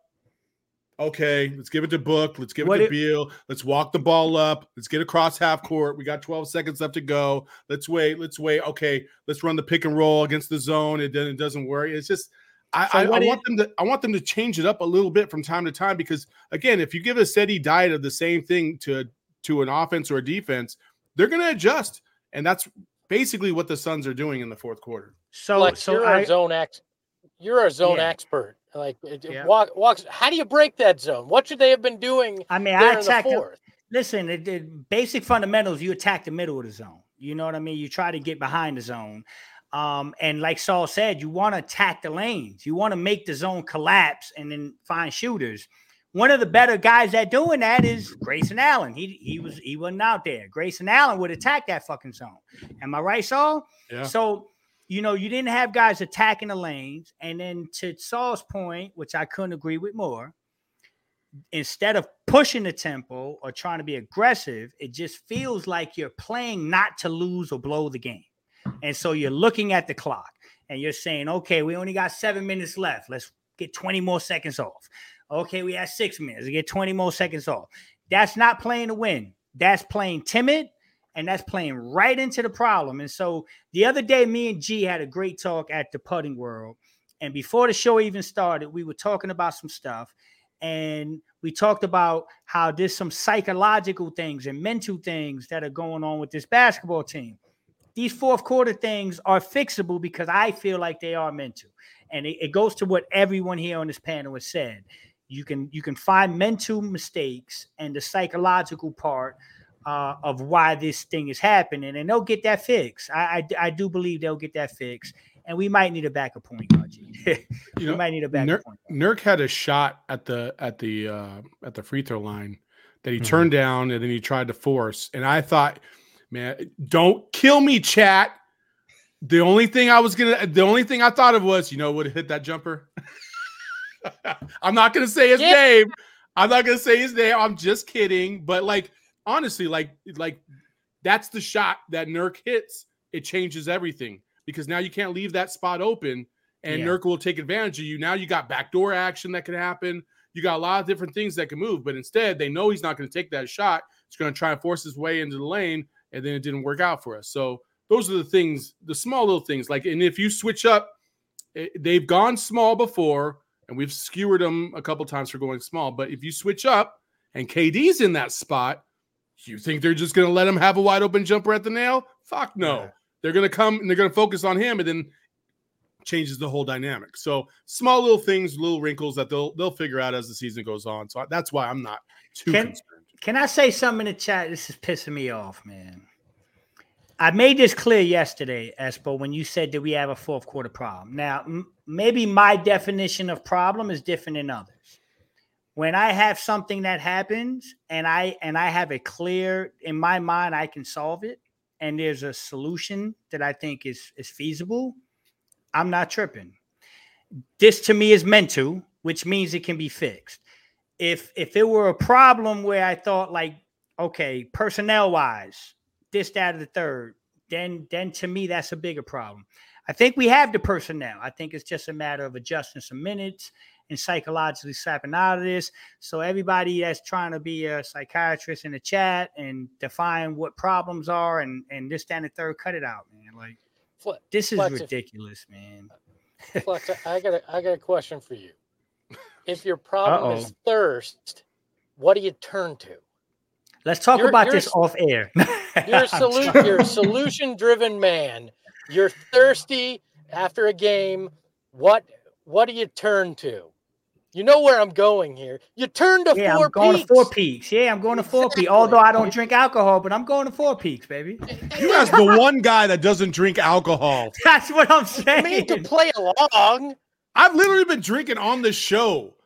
Okay, let's give it to Book. Let's give it What to it- Beal. Let's walk the ball up. Let's get across half court. We got twelve seconds left to go. Let's wait. Let's wait. Okay, let's run the pick and roll against the zone. It then it doesn't work. It's just I, So I, I what want it- them to I want them to change it up a little bit from time to time because again, if you give a steady diet of the same thing to to an offense or a defense, they're going to adjust, and that's basically what the Suns are doing in the fourth quarter. So, Like so you're I, a zone ex, you're a zone Yeah. expert. Like it, it Yeah. walk, walks. How do you break that zone? What should they have been doing I mean, there I in the attack. the- fourth? Listen, it, it, basic fundamentals. You attack the middle of the zone. You know what I mean. You try to get behind the zone, um, and like Saul said, you want to attack the lanes. You want to make the zone collapse and then find shooters. One of the better guys at doing that is Grayson Allen. He he was he wasn't out there. Grayson Allen would attack that fucking zone. Am I right, Saul? Yeah. So, you know, you didn't have guys attacking the lanes. And then to Saul's point, which I couldn't agree with more, instead of pushing the tempo or trying to be aggressive, it just feels like you're playing not to lose or blow the game. And so you're looking at the clock and you're saying, okay, we only got seven minutes left. Let's get twenty more seconds off. Okay, we have six minutes. We get twenty more seconds off. That's not playing to win. That's playing timid, and that's playing right into the problem. And so the other day, me and G had a great talk at the Putting World. And before the show even started, we were talking about some stuff. And we talked about how there's some psychological things and mental things that are going on with this basketball team. These fourth quarter things are fixable because I feel like they are mental. And it, it goes to what everyone here on this panel has said. You can you can find mental mistakes and the psychological part uh, of why this thing is happening, and they'll get that fixed. I, I, I do believe they'll get that fixed, and we might need a backup point guard. G. You we know, might need a backup Nurk, point guard. Nurk had a shot at the at the uh, at the free throw line that he Mhm. turned down and then he tried to force. And I thought, man, don't kill me, chat. The only thing I was gonna, the only thing I thought of was, you know, would have hit that jumper. I'm not gonna say his Yeah. name. I'm not gonna say his name. I'm just kidding. But like, honestly, like, like that's the shot that Nurk hits. It changes everything because now you can't leave that spot open, and Yeah. Nurk will take advantage of you. Now you got backdoor action that could happen. You got a lot of different things that can move, but instead they know he's not going to take that shot. He's going to try and force his way into the lane, and then it didn't work out for us. So those are the things, the small little things. Like, and if you switch up, eh, they've gone small before, and we've skewered them a couple times for going small. But if you switch up and K D's in that spot, you think they're just going to let him have a wide open jumper at the nail? Fuck no. Yeah. They're going to come and they're going to focus on him, and then changes the whole dynamic. So small little things, little wrinkles that they'll they'll figure out as the season goes on. So that's why I'm not too Can- concerned. Can I say something in the chat? This is pissing me off, man. I made this clear yesterday, Espo, when you said that we have a fourth quarter problem. Now, m- maybe my definition of problem is different than others. When I have something that happens and I and I have it clear in my mind, I can solve it, and there's a solution that I think is is feasible, I'm not tripping. This to me is mental, which means it can be fixed. If if it were a problem where I thought like, okay, personnel wise, this, that, or the third, then then to me that's a bigger problem. I think we have the personnel. I think it's just a matter of adjusting some minutes and psychologically snapping out of this. So everybody that's trying to be a psychiatrist in the chat and define what problems are and and this, that, and the third, cut it out, man. Like Fle- this is Flex, if- ridiculous, man. Flex, I got a, I got a question for you. If your problem is Uh-oh. thirst, what do you turn to? Let's talk You're- about you're this s- off air. You're a, I'm solu- sorry. you're a solution-driven man. You're thirsty after a game. What what do you turn to? You know where I'm going here. You turn to Yeah, four I'm going peaks. to Four Peaks. Yeah, I'm going to Four Exactly. Peaks. Although I don't drink alcohol, but I'm going to Four Peaks, baby. You asked the one guy that doesn't drink alcohol. That's what I'm I saying. mean, to play along. I've literally been drinking on the show.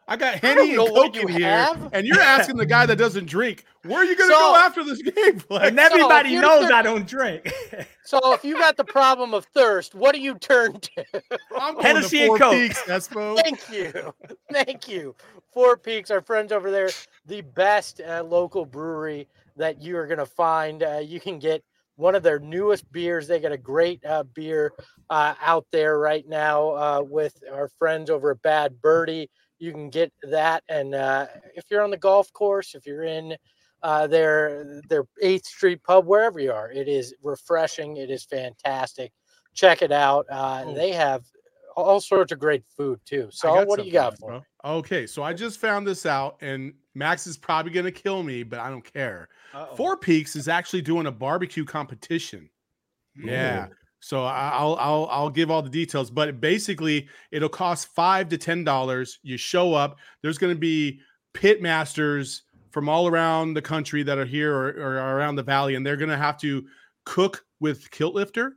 I got I Henny don't know and what Coke in you here, have. and you're asking the guy that doesn't drink, where are you going to So- go after this game? Flex? And everybody you knows turn- I don't drink. So if you got the problem of thirst, what do you turn to? I'm going Hennessy to and Four Coke. Peaks, Espo. Thank you. Thank you. Four Peaks, our friends over there, the best uh, local brewery that you are going to find. Uh, you can get one of their newest beers. They got a great uh, beer uh, out there right now uh, with our friends over at Bad Birdie. You can get that. And uh, if you're on the golf course, if you're in uh, their, their eighth Street pub, wherever you are, it is refreshing. It is fantastic. Check it out. Uh, Oh. They have all sorts of great food too. I So got what do you something, got for me? bro. Okay, so I just found this out, and Max is probably going to kill me, but I don't care. Uh-oh. Four Peaks is actually doing a barbecue competition. Yeah. Ooh. So I- I'll I'll I'll give all the details, but basically it'll cost five to ten dollars. You show up. There's going to be pit masters from all around the country that are here or, or around the valley, and they're going to have to cook with Kilt Lifter.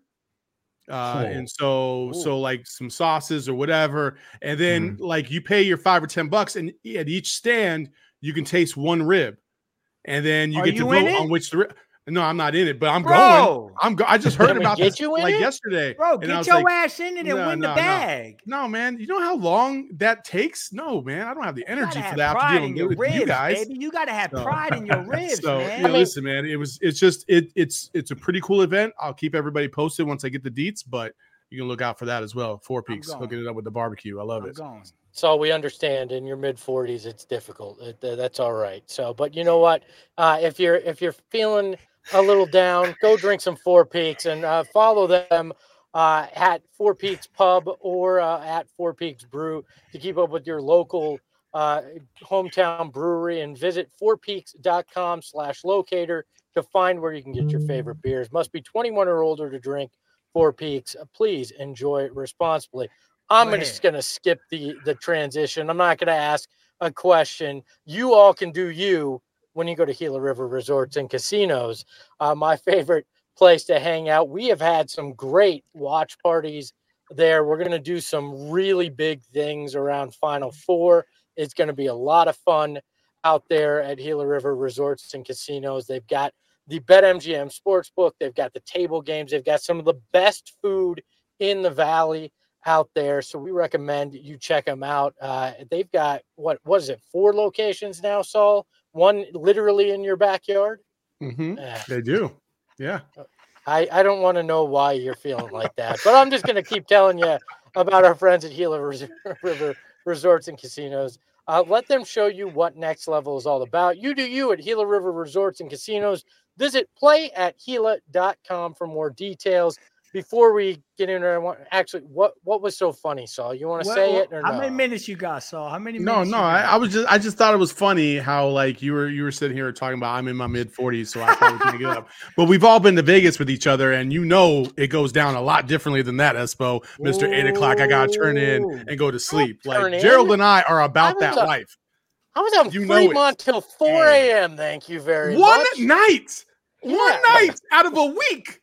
Uh, Cool. and so Ooh. so like some sauces or whatever, and then like you pay your five or ten bucks, and at each stand you can taste one rib, and then you Are get to you in vote it? on which the rib. No, I'm not in it, but I'm going. Bro, I'm go- I just heard Can we about get this you in like it? yesterday. bro, and I get was your like, ass in it and no, win no, the no. bag. No, man, you know how long that takes? No, man, I don't have the You energy gotta for have that. pride To in deal your with ribs, you guys. baby. You gotta have So- pride in your ribs, so man. yeah, I mean- listen, man, it was it's just it it's it's a pretty cool event. I'll keep everybody posted once I get the deets, but you can look out for that as well. Four Peaks going. hooking it up with the barbecue. I love I'm it. going. So we understand in your mid forties, it's difficult. It, uh, that's all right. So, but you know what? Uh, if you're if you're feeling a little down, go drink some Four Peaks and uh, follow them uh, at Four Peaks Pub or uh, at Four Peaks Brew to keep up with your local uh, hometown brewery, and visit fourpeaks.com slash locator to find where you can get your favorite beers. Must be twenty-one or older to drink Four Peaks. Uh, Please enjoy responsibly. I'm Go gonna- ahead. just going to skip the, the transition. I'm not going to ask a question. You all can do you when you go to Gila River Resorts and Casinos. Uh, my favorite place to hang out. We have had some great watch parties there. We're going to do some really big things around Final Four. It's going to be a lot of fun out there at Gila River Resorts and Casinos. They've got the BetMGM Sportsbook. They've got the table games. They've got some of the best food in the valley out there. So we recommend you check them out. Uh, they've got, what was it, four locations now, Saul? One literally in your backyard? Mhm. Eh, They do. Yeah. I, I don't want to know why you're feeling like that, but I'm just going to keep telling you about our friends at Gila Res- River Resorts and Casinos. Uh, let them show you what Next Level is all about. You do you at Gila River Resorts and Casinos. Visit play at gila dot com for more details. Before we get in there, I want actually what what was so funny, Saul? You want to What- say what- it or how no? many minutes you got, Saul? How many No, minutes? no, you I, got? I was just I just thought it was funny how like you were you were sitting here talking about I'm in my mid forties, so I probably can't get up. But we've all been to Vegas with each other, and you know it goes down a lot differently than that, Espo. Mister Eight o'clock, I gotta turn in Ooh. and go to sleep. turn Like in. Gerald and I are about I that was a- life. I was on You know it. Fremont till four a.m. Thank you very One much. night, one Yeah. night out of a week.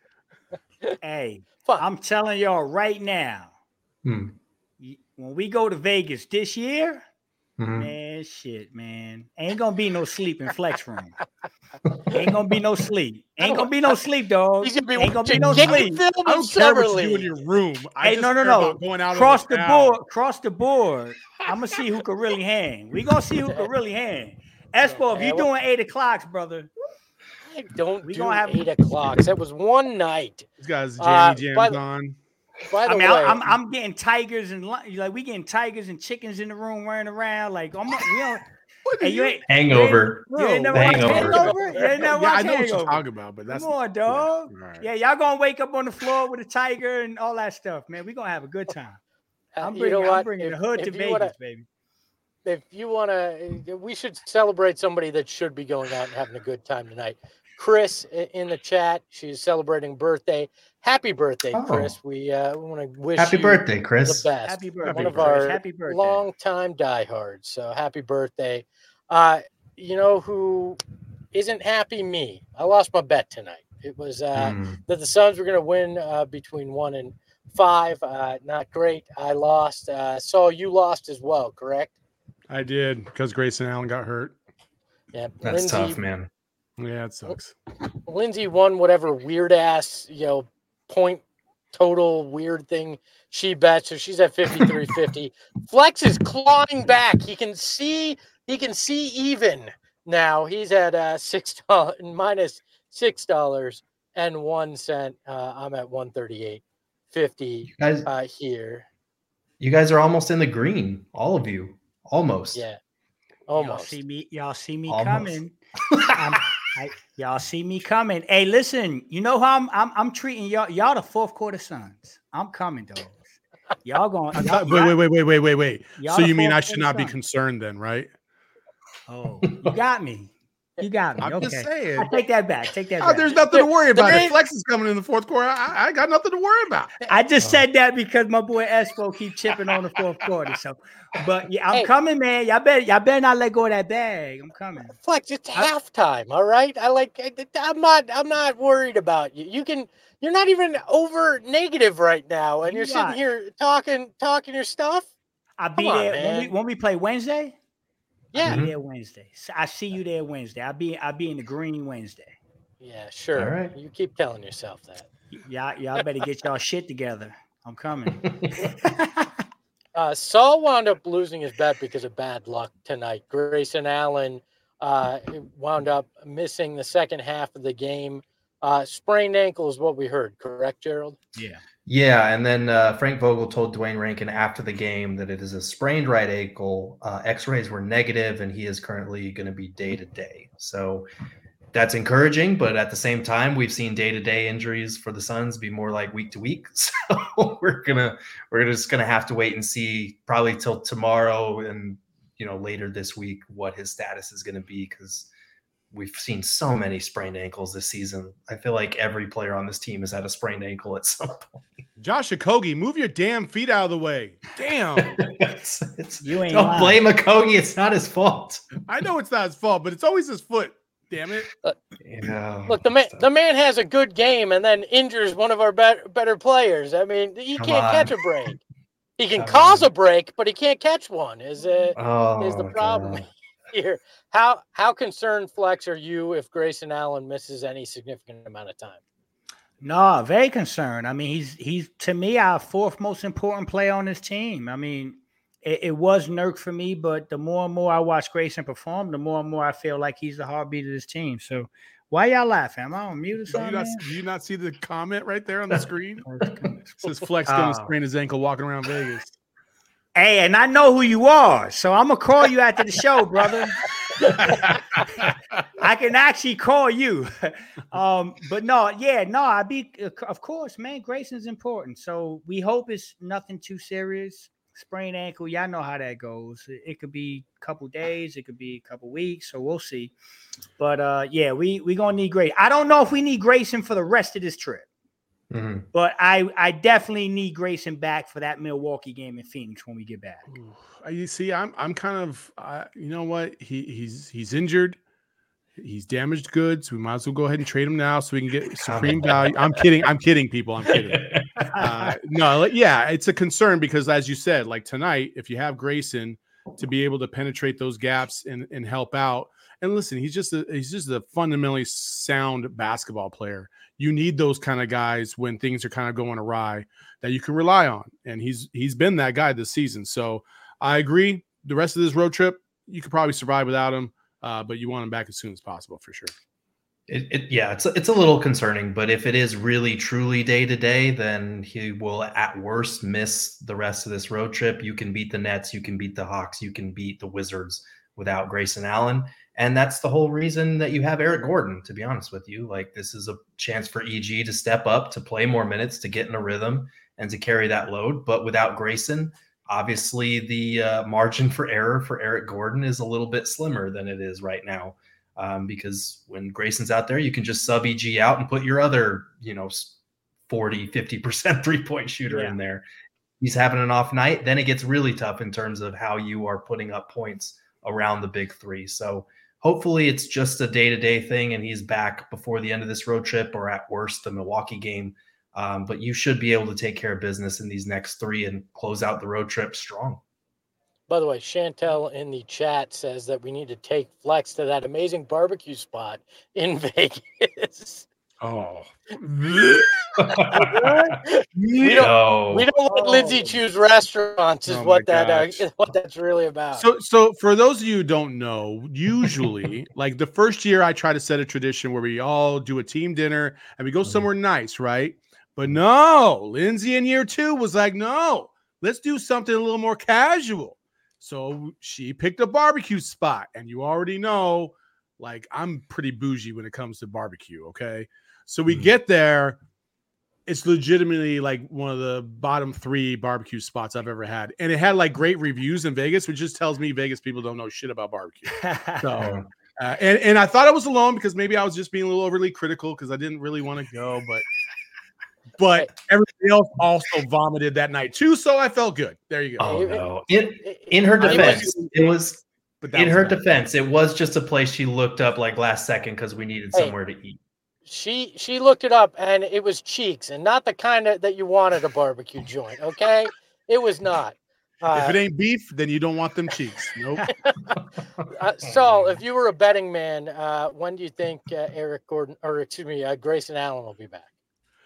Hey, Fuck. I'm telling y'all right now, Hmm. y- when we go to Vegas this year, Mhm. man, shit, man, ain't gonna be no sleep in Flex Room. Ain't gonna be no sleep. Ain't gonna be no sleep, dog. He's gonna be Ain't gonna be watching no game sleep. film I in don't care what Summer you do in League. your room. I Hey, just no, no, care no. about going out Cross on the town. board, cross the board. I'm gonna see who can really hang. We gonna see who can really hang. Espo, if Yeah, you well- doing eight o'clocks, brother, I don't We do gonna have- eight o'clocks. That was one night. These guys Uh, jammy by jams the- on. By the I mean, way, I, I'm I'm getting tigers and li- like we getting tigers and chickens in the room running around. Like I'm, you know, hey, you ain't Hangover. You ain't never The watched Hangover. Hangover? You ain't never Yeah, I watched know what you're Hangover? talking about, but that's Come on, dog. Yeah, all right. Yeah, y'all gonna wake up on the floor with a tiger and all that stuff, man. We gonna have a good time. uh, I'm you bringing, know I'm what? bringing If- the hood if to you Vegas, wanna- baby. if you want to, we should celebrate somebody that should be going out and having a good time tonight. Chris i- in the chat, she's celebrating birthday. Happy birthday, Oh. Chris. We uh, want to wish Happy you birthday, the Chris. best. Happy birthday, One of Chris. our Happy birthday. longtime diehards. So happy birthday. Uh, you know who isn't happy? Me. I lost my bet tonight. It was uh, Mm. that the Suns were going to win uh, between one and five. Uh, not great. I lost. Uh, so you lost as well, correct? I did because Grayson Allen got hurt. Yeah, That's Lindsay, tough, man. Yeah, it sucks. Lindsay won whatever weird ass, you know, point total weird thing she bet. So she's at fifty-three fifty. Flex is clawing back. He can see, he can see even now. He's at uh six dollars minus six dollars and one cent. Uh, I'm at one thirty-eight fifty Guys, uh here. you guys are almost in the green, all of you. Almost. Yeah. Y'all Almost. see me, y'all see me Almost. coming. I'm, I, y'all see me coming. Hey, listen, you know how I'm I'm, I'm treating y'all y'all the fourth quarter Suns. I'm coming, dogs. Y'all going I y'all, thought, wait, wait, wait, wait, wait, wait, wait. y'all So the you mean fourth I should quarter not be Suns. concerned then, right? Oh, you got me. You got me. I'm okay. just saying. I take that back. Take that Oh, back. there's nothing to worry The about. main- If Flex is coming in the fourth quarter, I, I got nothing to worry about. I just Oh. said that because my boy Espo keep chipping on the fourth quarter. So, but yeah, I'm Hey. coming, man. Y'all better, y'all better not let go of that bag. I'm coming. Flex, it's I- halftime, all right? I like I'm not I'm not worried about you. You can you're not even over negative right now, and You you're sitting what? here talking talking your stuff. I'll be Come on, there when we man. when we play Wednesday. I'll Yeah. be there Wednesday. So I see you there Wednesday. I'll be I'll be in the green Wednesday. Yeah, sure. All right. You keep telling yourself that. Y- Y'all, y'all better get y'all shit together. I'm coming. Uh, Saul wound up losing his bet because of bad luck tonight. Grayson Allen uh, wound up missing the second half of the game. Uh, sprained ankle is what we heard, correct, Gerald? Yeah. Yeah, and then uh, Frank Vogel told Dwayne Rankin after the game that it is a sprained right ankle. Uh, X-rays were negative, and he is currently going to be day to day. So that's encouraging, but at the same time, we've seen day to day injuries for the Suns be more like week to week. So we're gonna we're just gonna have to wait and see, probably till tomorrow and you know later this week, what his status is going to be, because we've seen so many sprained ankles this season. I feel like every player on this team has had a sprained ankle at some point. Josh Okogie, move your damn feet out of the way. Damn. it's, it's, You ain't don't lying. blame Okogie. It's not his fault. I know it's not his fault, but it's always his foot. Damn it. Yeah. Look, the man the man has a good game and then injures one of our better better players. I mean, he Come can't on. catch a break. He can Come cause on. a break, but he can't catch one. Is uh, Oh, is the problem God. here? How how concerned, Flex, are you if Grayson Allen misses any significant amount of time? No, very concerned. I mean, he's he's to me our fourth most important player on this team. I mean, it, it was Nurk for me, but the more and more I watch Grayson perform, the more and more I feel like he's the heartbeat of this team. So why y'all laughing? Am I on mute or Do you, something? not, man? do you not see the comment right there on the screen? Hey, Says Flex going to Oh. sprain his ankle walking around Vegas. and I know who you are, so I'm gonna call you after the show, brother. I can actually call you. um, but no, yeah, no, I be of course, man. Grayson's important, so we hope it's nothing too serious. Sprained ankle, y'all know how that goes. It, it could be a couple days, it could be a couple weeks, so we'll see. But uh, yeah, we we gonna need Grayson. I don't know if we need Grayson for the rest of this trip, Mhm. but I I definitely need Grayson back for that Milwaukee game in Phoenix when we get back. Ooh, uh, You see, I'm I'm kind of uh, you know what? He he's he's injured. He's damaged goods. We might as well go ahead and trade him now so we can get supreme value. I'm kidding. I'm kidding, people. I'm kidding. Uh, no, like, yeah, it's a concern because, as you said, like tonight, if you have Grayson to be able to penetrate those gaps and, and help out, and listen, he's just a, he's just a fundamentally sound basketball player. You need those kind of guys when things are kind of going awry that you can rely on, and he's he's been that guy this season. So I agree. The rest of this road trip, you could probably survive without him, uh, but you want him back as soon as possible for sure. It, it, yeah, it's it's a little concerning, but if it is really truly day to day, then he will at worst miss the rest of this road trip. You can beat the Nets, you can beat the Hawks, you can beat the Wizards without Grayson Allen, and that's the whole reason that you have Eric Gordon. To be honest with you, like this is a chance for E G to step up, to play more minutes, to get in a rhythm, and to carry that load. But without Grayson, obviously the uh, margin for error for Eric Gordon is a little bit slimmer than it is right now. Um, because when Grayson's out there, you can just sub E G out and put your other, you know, forty, fifty percent three-point shooter Yeah. in there. He's having an off night. Then it gets really tough in terms of how you are putting up points around the big three. So hopefully it's just a day-to-day thing and he's back before the end of this road trip, or at worst the Milwaukee game. Um, but you should be able to take care of business in these next three and close out the road trip strong. By the way, Chantel in the chat says that we need to take Flex to that amazing barbecue spot in Vegas. Oh, we don't we No. don't let Lindsay Oh. choose restaurants is Oh my what that gosh. uh, what that's really about. So, so for those of you who don't know, usually, like the first year, I try to set a tradition where we all do a team dinner and we go somewhere nice, right? But no, Lindsay in year two was like, no, let's do something a little more casual. So she picked a barbecue spot, and you already know, like, I'm pretty bougie when it comes to barbecue. Okay, so we Mhm. get there. It's legitimately like one of the bottom three barbecue spots I've ever had. And it had like great reviews in Vegas, which just tells me Vegas people don't know shit about barbecue. So, uh, and, and I thought I was alone because maybe I was just being a little overly critical because I didn't really want to go, but, but everybody else also vomited that night too. So I felt good. There you go. Oh It- no. In It- in her it was- defense, it was But that in was her bad. defense, it was just a place she looked up like last second because we needed Hey. somewhere to eat. She she looked it up and it was Cheeks and not the kind of that you want at a barbecue joint. Okay, it was not. Uh, If it ain't beef, then you don't want them cheeks. Nope. uh, Saul, if you were a betting man, uh, when do you think uh, Eric Gordon or excuse me, uh, Grayson Allen will be back?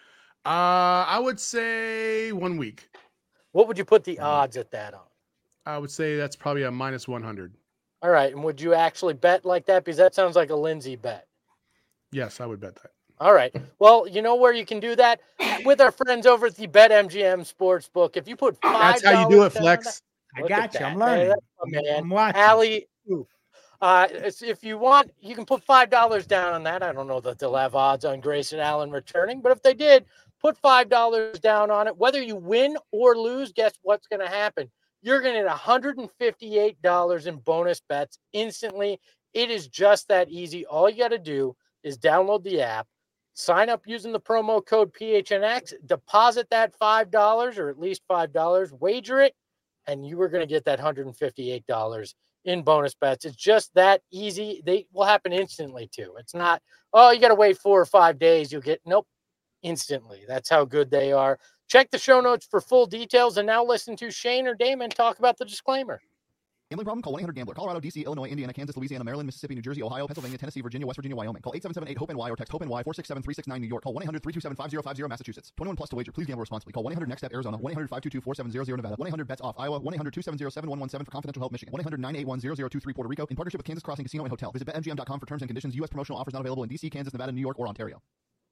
Uh, I would say one week. What would you put the odds at that on? I would say that's probably a minus one hundred. All right, and would you actually bet like that? Because that sounds like a Lindsay bet. Yes, I would bet that. All right. Well, you know where you can do that with our friends over at the BetMGM Sportsbook. If you put five, That's how you do it, Flex. I Look got at you. I'm that. Hey, learning. that's my I'm, man. I'm watching. Allie, uh, it's- if you want, you can put five dollars down on that. I don't know that they'll have odds on Grayson Allen returning, but if they did, put five dollars down on it. Whether you win or lose, guess what's going to happen? You're going to get one hundred fifty-eight dollars in bonus bets instantly. It is just that easy. All you got to do is download the app, sign up using the promo code P H N X, deposit that five dollars or at least five dollars, wager it, and you are going to get that one hundred fifty-eight dollars in bonus bets. It's just that easy. They will happen instantly too. It's not, oh, you got to wait four or five days. You'll get, nope, instantly. That's how good they are. Check the show notes for full details. And now listen to Shane or Damon talk about the disclaimer. Gambling problem? Call one eight hundred gambler. Colorado, D C, Illinois, Indiana, Kansas, Louisiana, Maryland, Mississippi, New Jersey, Ohio, Pennsylvania, Tennessee, Virginia, West Virginia, Wyoming. Call eight seven seven eight hope N Y or text HOPE-NY four six seven three six nine New York. Call one eight hundred three two seven five zero five zero Massachusetts. twenty-one plus to wager. Please gamble responsibly. Call one eight hundred next step Arizona. one eight hundred five two two four seven zero zero Nevada. one eight hundred bets off Iowa. one eight hundred two seven zero seven one one seven for confidential help Michigan. one eight hundred nine eight one zero zero two three Puerto Rico. In partnership with Kansas Crossing Casino and Hotel. Visit bet M G M dot com for terms and conditions. U S promotional offers not available in D C, Kansas, Nevada, New York, or Ontario.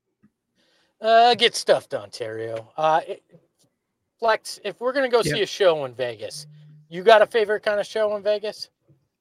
Uh, get stuffed, Ontario. Uh, it, Flex, if we're going to go Yep. see a show in Vegas, you got a favorite kind of show in Vegas?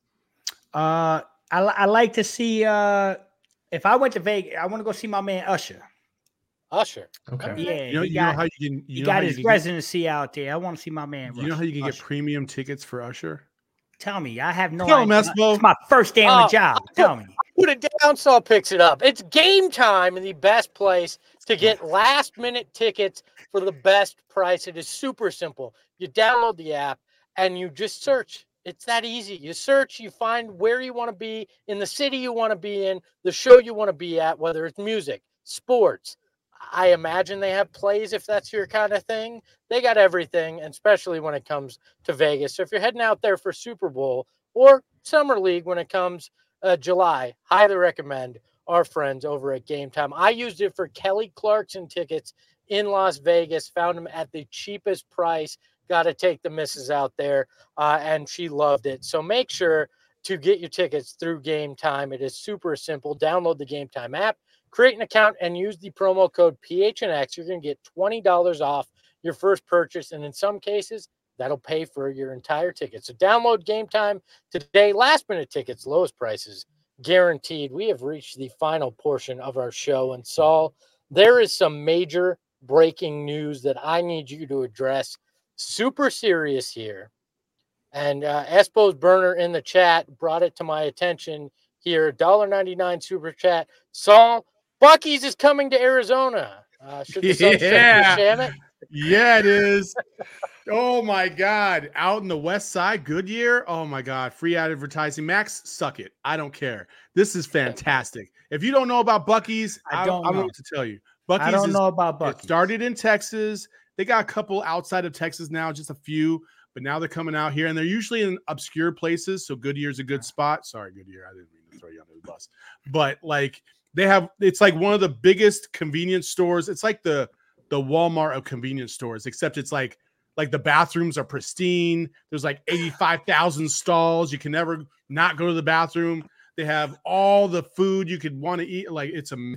Uh, I, li- I like to see. Uh, if I went to Vegas, I want to go see my man Usher. Usher. Okay. Yeah, You know, he you got, know how you can. he You know got how his you can get, residency out there. I want to see my man. you know how you can get Usher. premium tickets for Usher? Tell me, I have no Tell him, idea. Espo. It's my first day on Oh, the job. Tell me. Put it down, Saul picks it up. It's Game Time and the best place to get last minute tickets for the best price. It is super simple. You download the app and you just search. It's that easy. You search, you find where you want to be in the city you want to be in, the show you want to be at, whether it's music, sports. I imagine they have plays if that's your kind of thing. They got everything, and especially when it comes to Vegas. So if you're heading out there for Super Bowl or Summer League when it comes uh, July, highly recommend our friends over at Game Time. I used it for Kelly Clarkson tickets in Las Vegas, found them at the cheapest price. Got to take the missus out there, uh, and she loved it. So make sure to get your tickets through Game Time. It is super simple. Download the Game Time app, create an account, and use the promo code P H N X. You're going to get twenty dollars off your first purchase, and in some cases, that'll pay for your entire ticket. So download Game Time today. Last minute tickets, lowest prices guaranteed. We have reached the final portion of our show, and Saul, there is some major breaking news that I need you to address. Super serious here. And uh, Espo's burner in the chat brought it to my attention here. one ninety-nine super chat. Saul, Buc-ee's is coming to Arizona. Uh, should the Sunshine Yeah. sham it? Yeah, it is. Oh my God. Out in the west side, Goodyear. Oh my God. Free advertising. Max, suck it. I don't care. This is fantastic. If you don't know about Buc-ee's, I I, don't I don't know know. what to tell you. Buc-ee's I don't is, know about it Bucky. started in Texas. They got a couple outside of Texas now, just a few. but now they're coming out here, and they're usually in obscure places. So Goodyear's a good spot. Sorry, Goodyear, I didn't mean to throw you under the bus, but like they have, it's like one of the biggest convenience stores. It's like the the Walmart of convenience stores, except it's like like the bathrooms are pristine. There's like eighty-five thousand stalls. You can never not go to the bathroom. They have all the food you could want to eat. Like it's a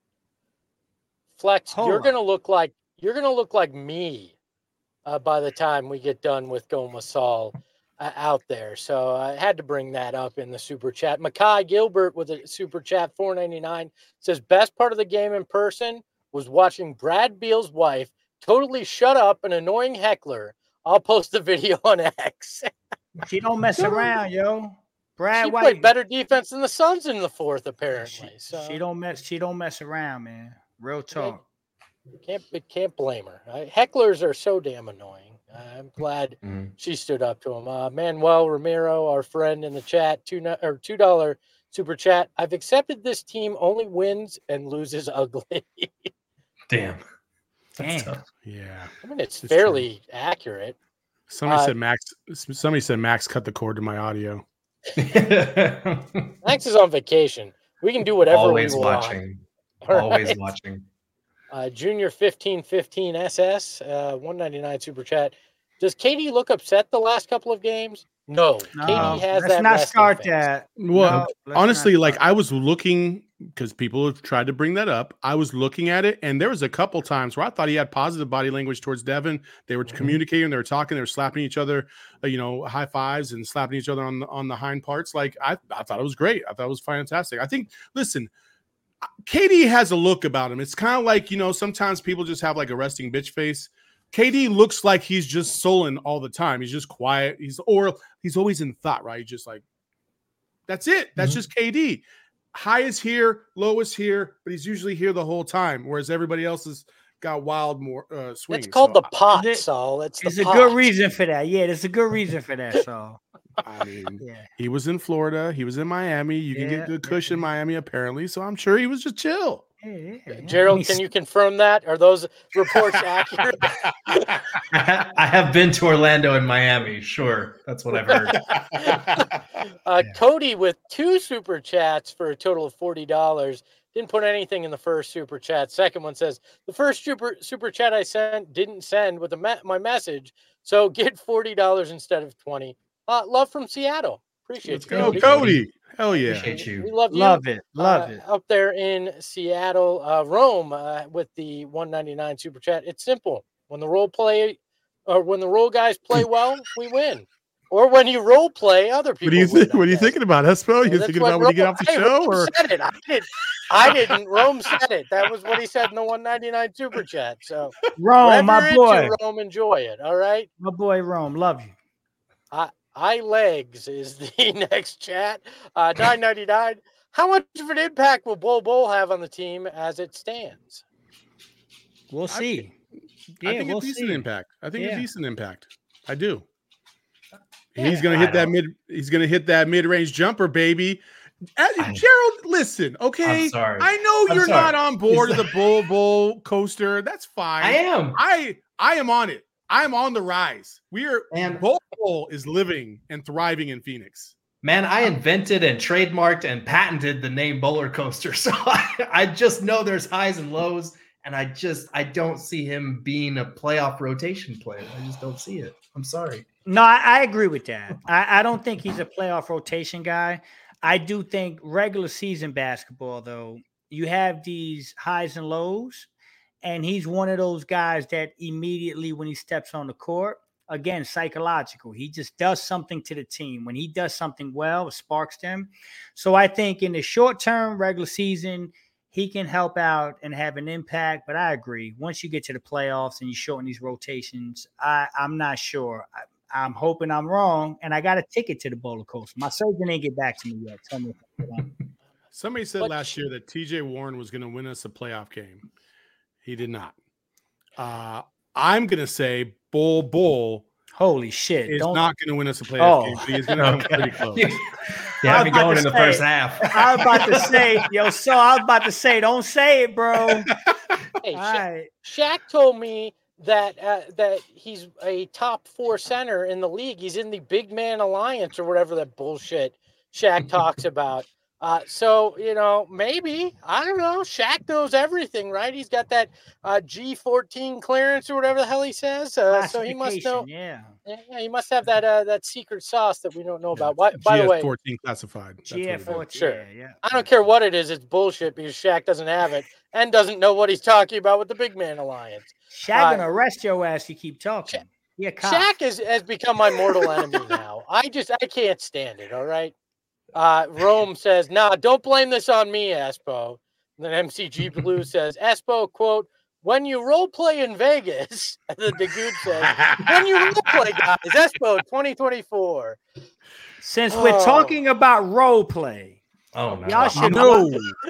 Flex. Hold you're on. gonna look like you're gonna look like me uh, by the time we get done with Goma Saul uh, out there. So I had to bring that up in the super chat. Makai Gilbert with a super chat four ninety-nine says best part of the game in person was watching Brad Beal's wife totally shut up an annoying heckler. I'll post the video on X. She don't mess around, yo. Brad She White played better defense than the Suns in the fourth, She, apparently. So she don't mess. She don't mess around, man. Real talk. can't can't blame her. Uh, hecklers are so damn annoying. Uh, I'm glad Mhm. she stood up to him. Uh, Manuel Ramiro, our friend in the chat, two no- or two dollar super chat. I've accepted this team only wins and loses ugly. Damn. That's Damn. tough. yeah. I mean, it's It's fairly accurate. Somebody Uh, said Max. Somebody said Max cut the cord to my audio. Max is on vacation. We can do whatever Always we want. watching. All Always right? watching. Uh, Junior fifteen fifteen S S, uh, one ninety-nine super chat. Does Katie look upset the last couple of games? No. No, Katie has let's that. not resting start face. that. Well, No, let's honestly, not like start. I was looking because people have tried to bring that up. I was looking at it, and there was a couple times where I thought he had positive body language towards Devin. They were Mhm. communicating, they were talking, they were slapping each other, uh, you know, high fives and slapping each other on the on the hind parts. Like I, I thought it was great. I thought it was fantastic. I think. Listen, K D has a look about him. It's kind of like, you know, sometimes people just have like a resting bitch face. K D looks like he's just sullen all the time. He's just quiet. He's or he's always in thought, right? He's just like, that's it. That's Mhm. just K D. High is here, low is here, but he's usually here the whole time, whereas everybody else has got wild more uh, swings. It's called So, the pot, it- Saul. It's the There's a pot. good reason for that. Yeah, there's a good reason for that. So I mean, yeah, he was in Florida. He was in Miami. You can Yeah, get good yeah, kush in Miami, apparently. So I'm sure he was just chill. yeah, yeah, yeah. Gerald, I can mean, you confirm that? Are those reports accurate? I ha- I have been to Orlando and Miami. Sure. That's what I've heard. uh, Yeah. Cody with two super chats for a total of forty dollars. Didn't put anything in the first super chat. Second one says, the first super super chat I sent didn't send with a me- my message, so get forty dollars instead of twenty. Uh, love from Seattle. Appreciate Let's you, go, Cody. Cody. Hell yeah. Appreciate you. We love you. love it, love uh, it. Up there in Seattle, uh, Rome, uh, with the one ninety-nine super chat. It's simple. When the role play, or when the role guys play well, we win. Or when you role play, other people. What do you win, think? I What are you guess. thinking about, Espo? You That's thinking what about when you get Rome- off the hey, show, Rome or said it. I didn't. I didn't. Rome said it. That was what he said in the one ninety-nine super chat. So Rome, whatever my you're boy, into, Rome, enjoy it. All right. my boy, Rome, love you. I I legs is the next chat. Uh, nine ninety-nine. How much of an impact will Bol Bol have on the team as it stands? We'll I see. I Yeah, think we'll a decent see. impact. I think Yeah. a decent impact. I do. Yeah, he's gonna I hit that don't- mid. He's gonna hit that mid-range jumper, baby. Uh, I- Gerald, listen, okay. I'm sorry. I know I'm you're sorry. not on board of He's- the Bull Bull coaster. That's fine. I am. I I am on it. I am on the rise. We are. Man. Bull Bull is living and thriving in Phoenix. Man, I invented and trademarked and patented the name Bowler Coaster. So I, I just know there's highs and lows. And I just, I don't see him being a playoff rotation player. I just don't see it. I'm sorry. No, I, I agree with that. I, I don't think he's a playoff rotation guy. I do think regular season basketball, though, you have these highs and lows, and he's one of those guys that immediately when he steps on the court, again, psychological. He just does something to the team. When he does something well, it sparks them. So I think in the short term, regular season, he can help out and have an impact. But I agree. Once you get to the playoffs and you shorten these rotations, I, I'm not sure. I, I'm hoping I'm wrong, and I got a ticket to the Bowler Coaster. My surgeon didn't get back to me yet. Tell me if I'm wrong. Somebody said But- last year that T J Warren was going to win us a playoff game. He did not. Uh, I'm going to say Bull Bull Holy shit! is Don't. not going to win us a playoff Oh. game, but he's going to come pretty close. You, you I have was me about going to in the say- first half. I was about to say, yo, so I was about to say, don't say it, bro. Hey, All Sha- right. Shaq told me that uh, that he's a top four center in the league. He's in the big man alliance or whatever that bullshit Shaq talks about. Uh, so, you know, maybe, I don't know, Shaq knows everything, right? He's got that uh, G fourteen clearance or whatever the hell he says. Uh, so he must know. Yeah. Yeah, he must have that uh, that secret sauce that we don't know about. By, by the way, G F fourteen classified. That's G F fourteen, sure. yeah, yeah. I don't care what it is. It's bullshit because Shaq doesn't have it and doesn't know what he's talking about with the big man alliance. Shaq Uh, gonna arrest your ass. You keep talking. Sha- Yeah, cop. Shaq is, has become my mortal enemy now. I just, I can't stand it. All right. Uh, Rome says, nah, don't blame this on me, Espo. And then M C G Blue says, Espo, quote, when you role play in Vegas, and then Dagood says, when you role play, guys, Espo twenty twenty-four. Since Oh. we're talking about role play, Oh no. y'all should No.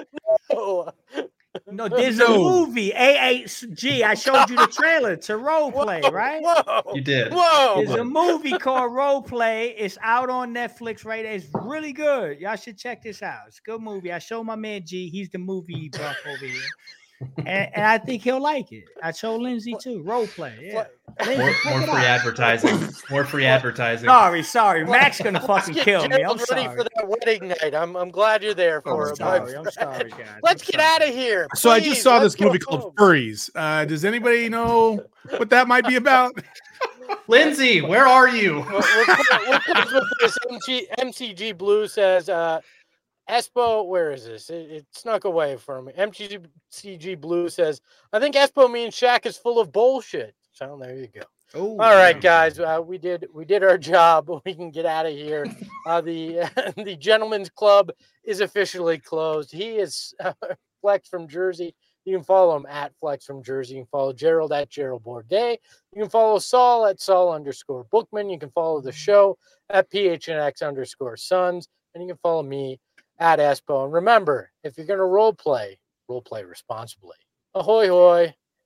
Oh, No, there's a No. movie, A H G. I showed you the trailer to role play, whoa, right? Whoa. You did. Whoa. There's a movie called Role Play. It's out on Netflix right there. It's really good. Y'all should check this out. It's a good movie. I showed my man G. He's the movie buff over here. And, and I think he'll like it. I showed Lindsay too. Role Play. Yeah. Lindsay, More, check more it free out. advertising. More free advertising. Sorry, sorry. Max gonna Let's fucking get kill me. I'm Gerald ready sorry. for that wedding night. I'm, I'm glad you're there for I'm it. my sorry. I'm friend. sorry, guys. Let's I'm get sorry. out of here. So I Please, just saw let's this movie go called home. Furries. Uh, does anybody know what that might be about? Lindsay, where are you? We'll, we'll, we'll close with this. M G, M C G Blue says, uh, Espo, where is this? It, it snuck away from me. M C G Blue says, I think Espo means Shaq is full of bullshit. So there you go. Ooh, All right, yeah. guys, uh, we did we did our job. We can get out of here. Uh, the the gentleman's club is officially closed. He is uh, Flex from Jersey. You can follow him at Flex from Jersey. You can follow Gerald at Gerald Bourdet. You can follow Saul at Saul underscore Bookman. You can follow the show at P H N X underscore Sons. And you can follow me at Espo. And remember, if you're going to role play, role play responsibly. Ahoy, hoy.